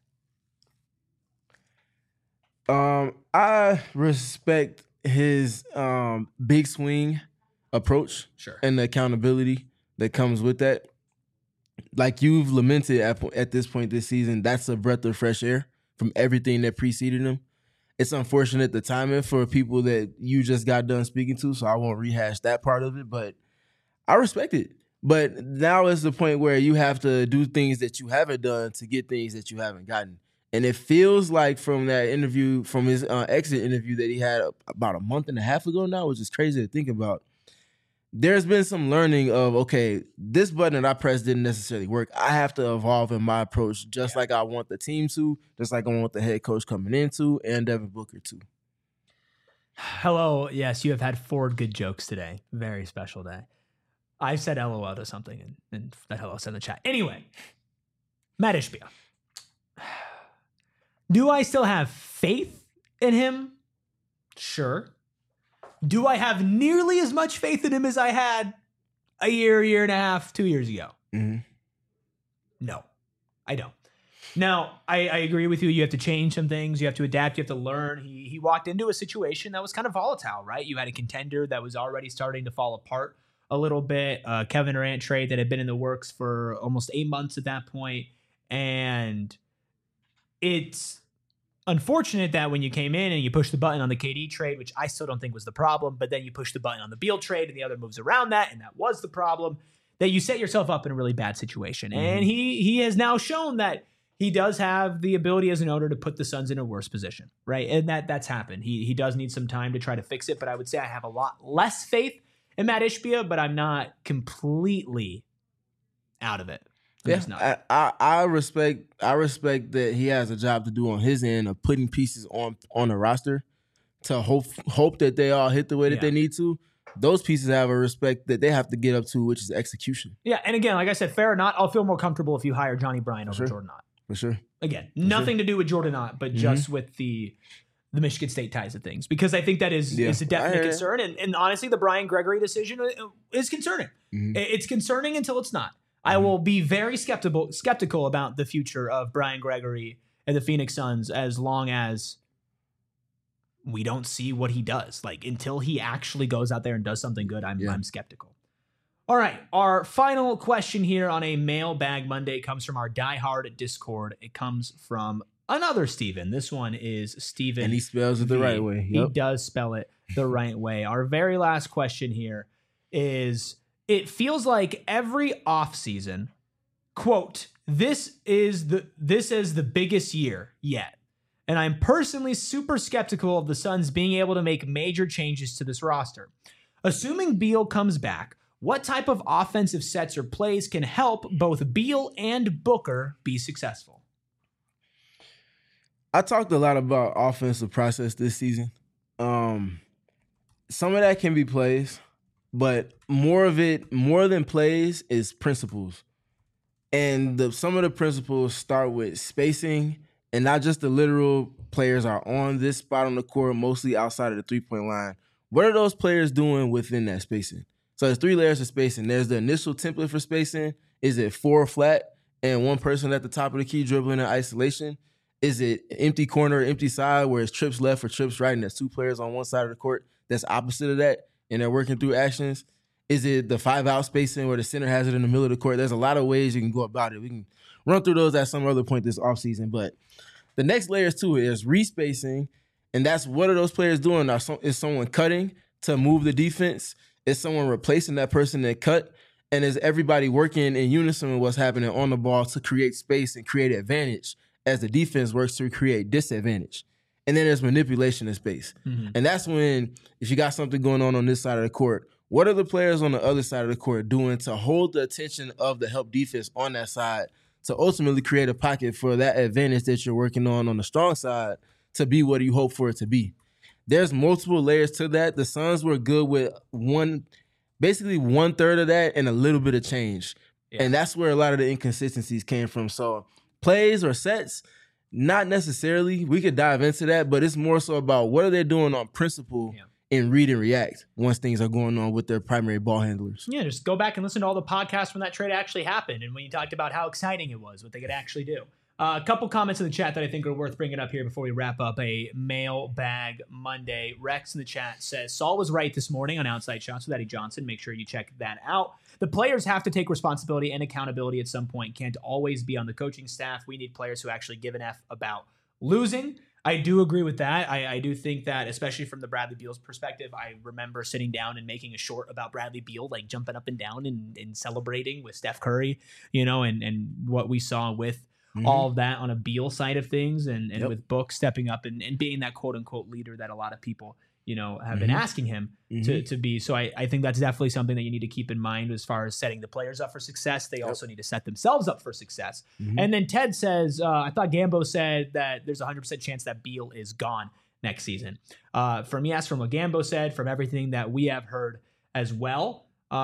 Speaker 2: I respect his big swing approach and the accountability that comes with that. Like you've lamented at this point this season, that's a breath of fresh air from everything that preceded him. It's unfortunate the timing for people that you just got done speaking to, so I won't rehash that part of it, but I respect it. But now is the point where you have to do things that you haven't done to get things that you haven't gotten. And it feels like from that interview, from his exit interview that he had about a month and a half ago now, which is crazy to think about, there's been some learning of, okay, this button that I pressed didn't necessarily work. I have to evolve in my approach just like I want the team to, just like I want the head coach coming into, and Devin Booker too.
Speaker 1: Hello. Yes, you have had 4 good jokes today. Very special day. I said LOL to something, and that hello said in the chat. Anyway, Matt Ishbia. Do I still have faith in him? Sure. Do I have nearly as much faith in him as I had a year and a half, 2 years ago? No, I don't. Now, I agree with you. You have to change some things. You have to adapt. You have to learn. He walked into a situation that was kind of volatile, right? You had a contender that was already starting to fall apart a little bit. Kevin Durant trade that had been in the works for almost 8 months at that point. And it's unfortunate that when you came in and you pushed the button on the KD trade, which I still don't think was the problem, but then you pushed the button on the Beal trade and the other moves around that, and that was the problem, that you set yourself up in a really bad situation. And he has now shown that he does have the ability as an owner to put the Suns in a worse position, right? And that's happened. He does need some time to try to fix it, but I would say I have a lot less faith in Matt Ishbia, but I'm not completely out of it.
Speaker 2: Yeah, I respect that he has a job to do on his end of putting pieces on the roster to hope that they all hit the way that they need to. Those pieces have a respect that they have to get up to, which is execution.
Speaker 1: Yeah, and again, like I said, fair or not, I'll feel more comfortable if you hire Johnny Bryant over Jordan Ott.
Speaker 2: For sure.
Speaker 1: Again, nothing to do with Jordan Ott, but just with the Michigan State ties of things, because I think that is a definite concern. And honestly, the Brian Gregory decision is concerning. It's concerning until it's not. I will be very skeptical about the future of Brian Gregory and the Phoenix Suns as long as we don't see what he does. Like, until he actually goes out there and does something good, I'm skeptical. All right, our final question here on a Mailbag Monday comes from our diehard Discord. It comes from another Steven. This one is Steven.
Speaker 2: And he spells it the right way.
Speaker 1: He does spell it the right way. Our very last question here is, it feels like every offseason, quote, this is the biggest year yet. And I'm personally super skeptical of the Suns being able to make major changes to this roster. Assuming Beal comes back, what type of offensive sets or plays can help both Beal and Booker be successful?
Speaker 2: I talked a lot about offensive process this season. Some of that can be plays, but more than plays, is principles. And some of the principles start with spacing, and not just the literal players are on this spot on the court, mostly outside of the three-point line. What are those players doing within that spacing? So there's 3 layers of spacing. There's the initial template for spacing. Is it 4 flat and one person at the top of the key dribbling in isolation? Is it empty corner, empty side, where it's trips left or trips right, and there's 2 players on one side of the court that's opposite of that, and they're working through actions? Is it the 5-out spacing where the center has it in the middle of the court? There's a lot of ways you can go about it. We can run through those at some other point this offseason. But the next layers to it is respacing, and that's what are those players doing? Is someone cutting to move the defense? Is someone replacing that person that cut? And is everybody working in unison with what's happening on the ball to create space and create advantage as the defense works to create disadvantage? And then there's manipulation of space. Mm-hmm. And that's when, if you got something going on this side of the court, what are the players on the other side of the court doing to hold the attention of the help defense on that side to ultimately create a pocket for that advantage that you're working on the strong side to be what you hope for it to be? There's multiple layers to that. The Suns were good with basically 1/3 of that and a little bit of change. Yeah. And that's where a lot of the inconsistencies came from. So plays or sets, not necessarily. We could dive into that, but it's more so about what are they doing on principle and read and react once things are going on with their primary ball handlers.
Speaker 1: Yeah, just go back and listen to all the podcasts when that trade actually happened and when you talked about how exciting it was, what they could actually do. A couple comments in the chat that I think are worth bringing up here before we wrap up a Mailbag Monday. Rex in the chat says, Saul was right this morning on outside shots with Eddie Johnson. Make sure you check that out. The players have to take responsibility and accountability at some point. Can't always be on the coaching staff. We need players who actually give an F about losing. I do agree with that. I do think that, especially from the Bradley Beal's perspective, I remember sitting down and making a short about Bradley Beal, like jumping up and down and celebrating with Steph Curry, and what we saw with all of that on a Beal side of things and with Book stepping up and being that quote unquote leader that a lot of people, have been asking him to be. So I think that's definitely something that you need to keep in mind as far as setting the players up for success. They also need to set themselves up for success. And then Ted says, I thought Gambo said that there's a 100% chance that Beal is gone next season. From what Gambo said, from everything that we have heard as well,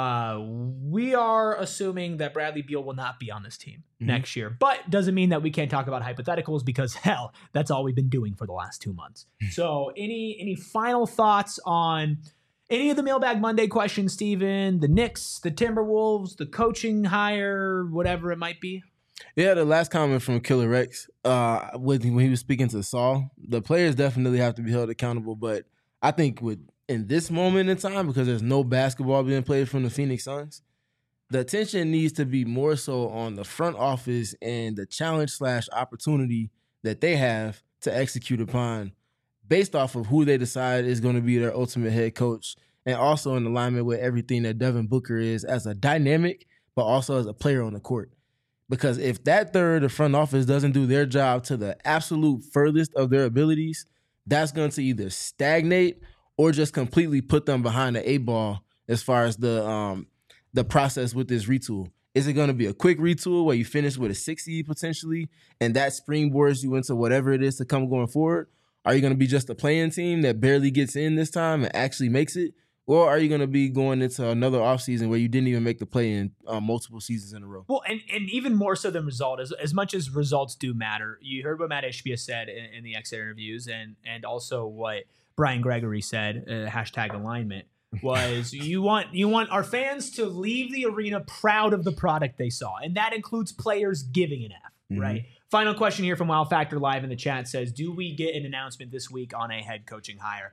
Speaker 1: we are assuming that Bradley Beal will not be on this team next year, but doesn't mean that we can't talk about hypotheticals because hell, that's all we've been doing for the last 2 months. So any final thoughts on any of the Mailbag Monday questions, Steven, the Knicks, the Timberwolves, the coaching hire, whatever it might be?
Speaker 2: Yeah, the last comment from Killer Rex, when he was speaking to Saul, the players definitely have to be held accountable, but I think in this moment in time, because there's no basketball being played from the Phoenix Suns, the attention needs to be more so on the front office and the challenge/opportunity that they have to execute upon based off of who they decide is going to be their ultimate head coach, and also in alignment with everything that Devin Booker is as a dynamic, but also as a player on the court. Because if that third, the front office, doesn't do their job to the absolute furthest of their abilities, that's going to either stagnate or just completely put them behind the 8-ball as far as the process with this retool. Is it going to be a quick retool where you finish with a 6 seed potentially and that springboards you into whatever it is to come going forward? Are you going to be just a playing team that barely gets in this time and actually makes it? Or are you going to be going into another offseason where you didn't even make the play in multiple seasons in a row?
Speaker 1: Well, and even more so than result, as much as results do matter, you heard what Matt Ishbia said in the exit interviews and also what Brian Gregory said, #alignment, was you want our fans to leave the arena proud of the product they saw. And that includes players giving an F, right? Final question here from Wow Factor Live in the chat says, do we get an announcement this week on a head coaching hire?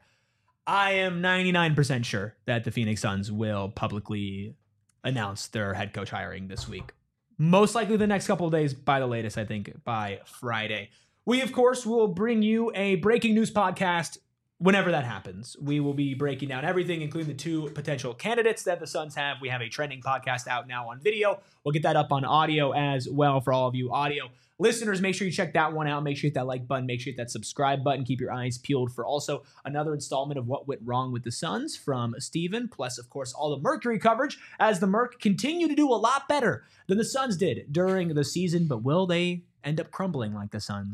Speaker 1: I am 99% sure that the Phoenix Suns will publicly announce their head coach hiring this week. Most likely the next couple of days, by the latest, I think by Friday. We, of course, will bring you a breaking news podcast whenever that happens. We will be breaking down everything, including the 2 potential candidates that the Suns have. We have a trending podcast out now on video. We'll get that up on audio as well for all of you audio listeners. Make sure you check that one out. Make sure you hit that like button. Make sure you hit that subscribe button. Keep your eyes peeled for also another installment of What Went Wrong with the Suns from Steven, plus, of course, all the Mercury coverage as the Merc continue to do a lot better than the Suns did during the season. But will they end up crumbling like the Suns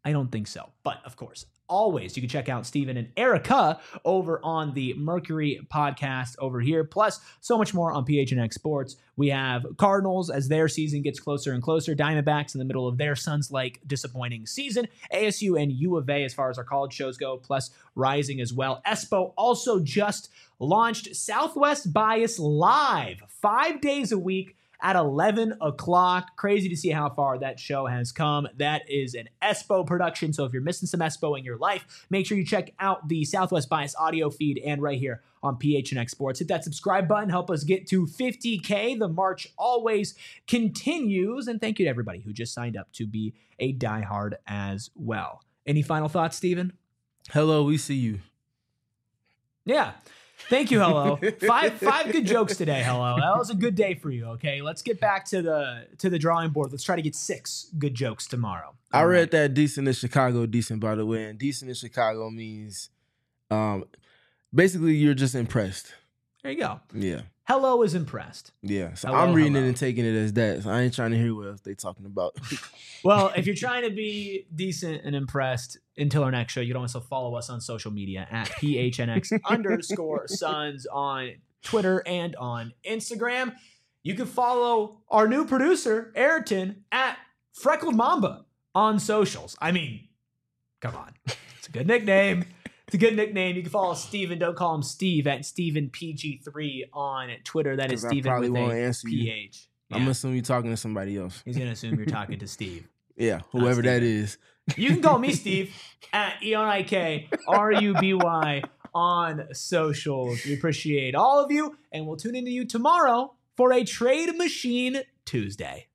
Speaker 1: I don't think so. But of course, always you can check out Steven and Erica over on the Mercury podcast over here. Plus, so much more on PHNX Sports. We have Cardinals as their season gets closer and closer. Diamondbacks in the middle of their Suns-like disappointing season. ASU and U of A as far as our college shows go, plus Rising as well. Espo also just launched Southwest Bias Live 5 days a week at 11 o'clock. Crazy to see how far that show has come. That is an Espo production, so if you're missing some Espo in your life, make sure you check out the Southwest Bias audio feed and right here on PHNX Sports. Hit that subscribe button. Help us get to 50K. The march always continues. And thank you to everybody who just signed up to be a diehard as well. Any final thoughts, Steven?
Speaker 2: Hello, we see you.
Speaker 1: Yeah. Thank you, Hello. Five good jokes today, Hello. That was a good day for you, okay? Let's get back to the drawing board. Let's try to get 6 good jokes tomorrow.
Speaker 2: I read that decent in Chicago, decent, by the way. And decent in Chicago means basically you're just impressed.
Speaker 1: There you go.
Speaker 2: Yeah.
Speaker 1: Hello is impressed.
Speaker 2: Yeah. So
Speaker 1: Hello,
Speaker 2: I'm reading it and taking it as that. So I ain't trying to hear what else they talking about.
Speaker 1: Well, if you're trying to be decent and impressed until our next show, you can also follow us on social media at PHNX_Suns on Twitter and on Instagram. You can follow our new producer, Ayrton, at Freckled Mamba on socials. I mean, come on. It's a good nickname. It's a good nickname. You can follow Steven. Don't call him Steve at StevenPG3 on Twitter. That is Steven with a PH.
Speaker 2: Yeah. I'm going to assume you're talking to somebody else.
Speaker 1: He's going to assume you're talking to Steve.
Speaker 2: Yeah, whoever that is.
Speaker 1: You can call me Steve at EONIKRUBY on socials. We appreciate all of you, and we'll tune into you tomorrow for a Trade Machine Tuesday.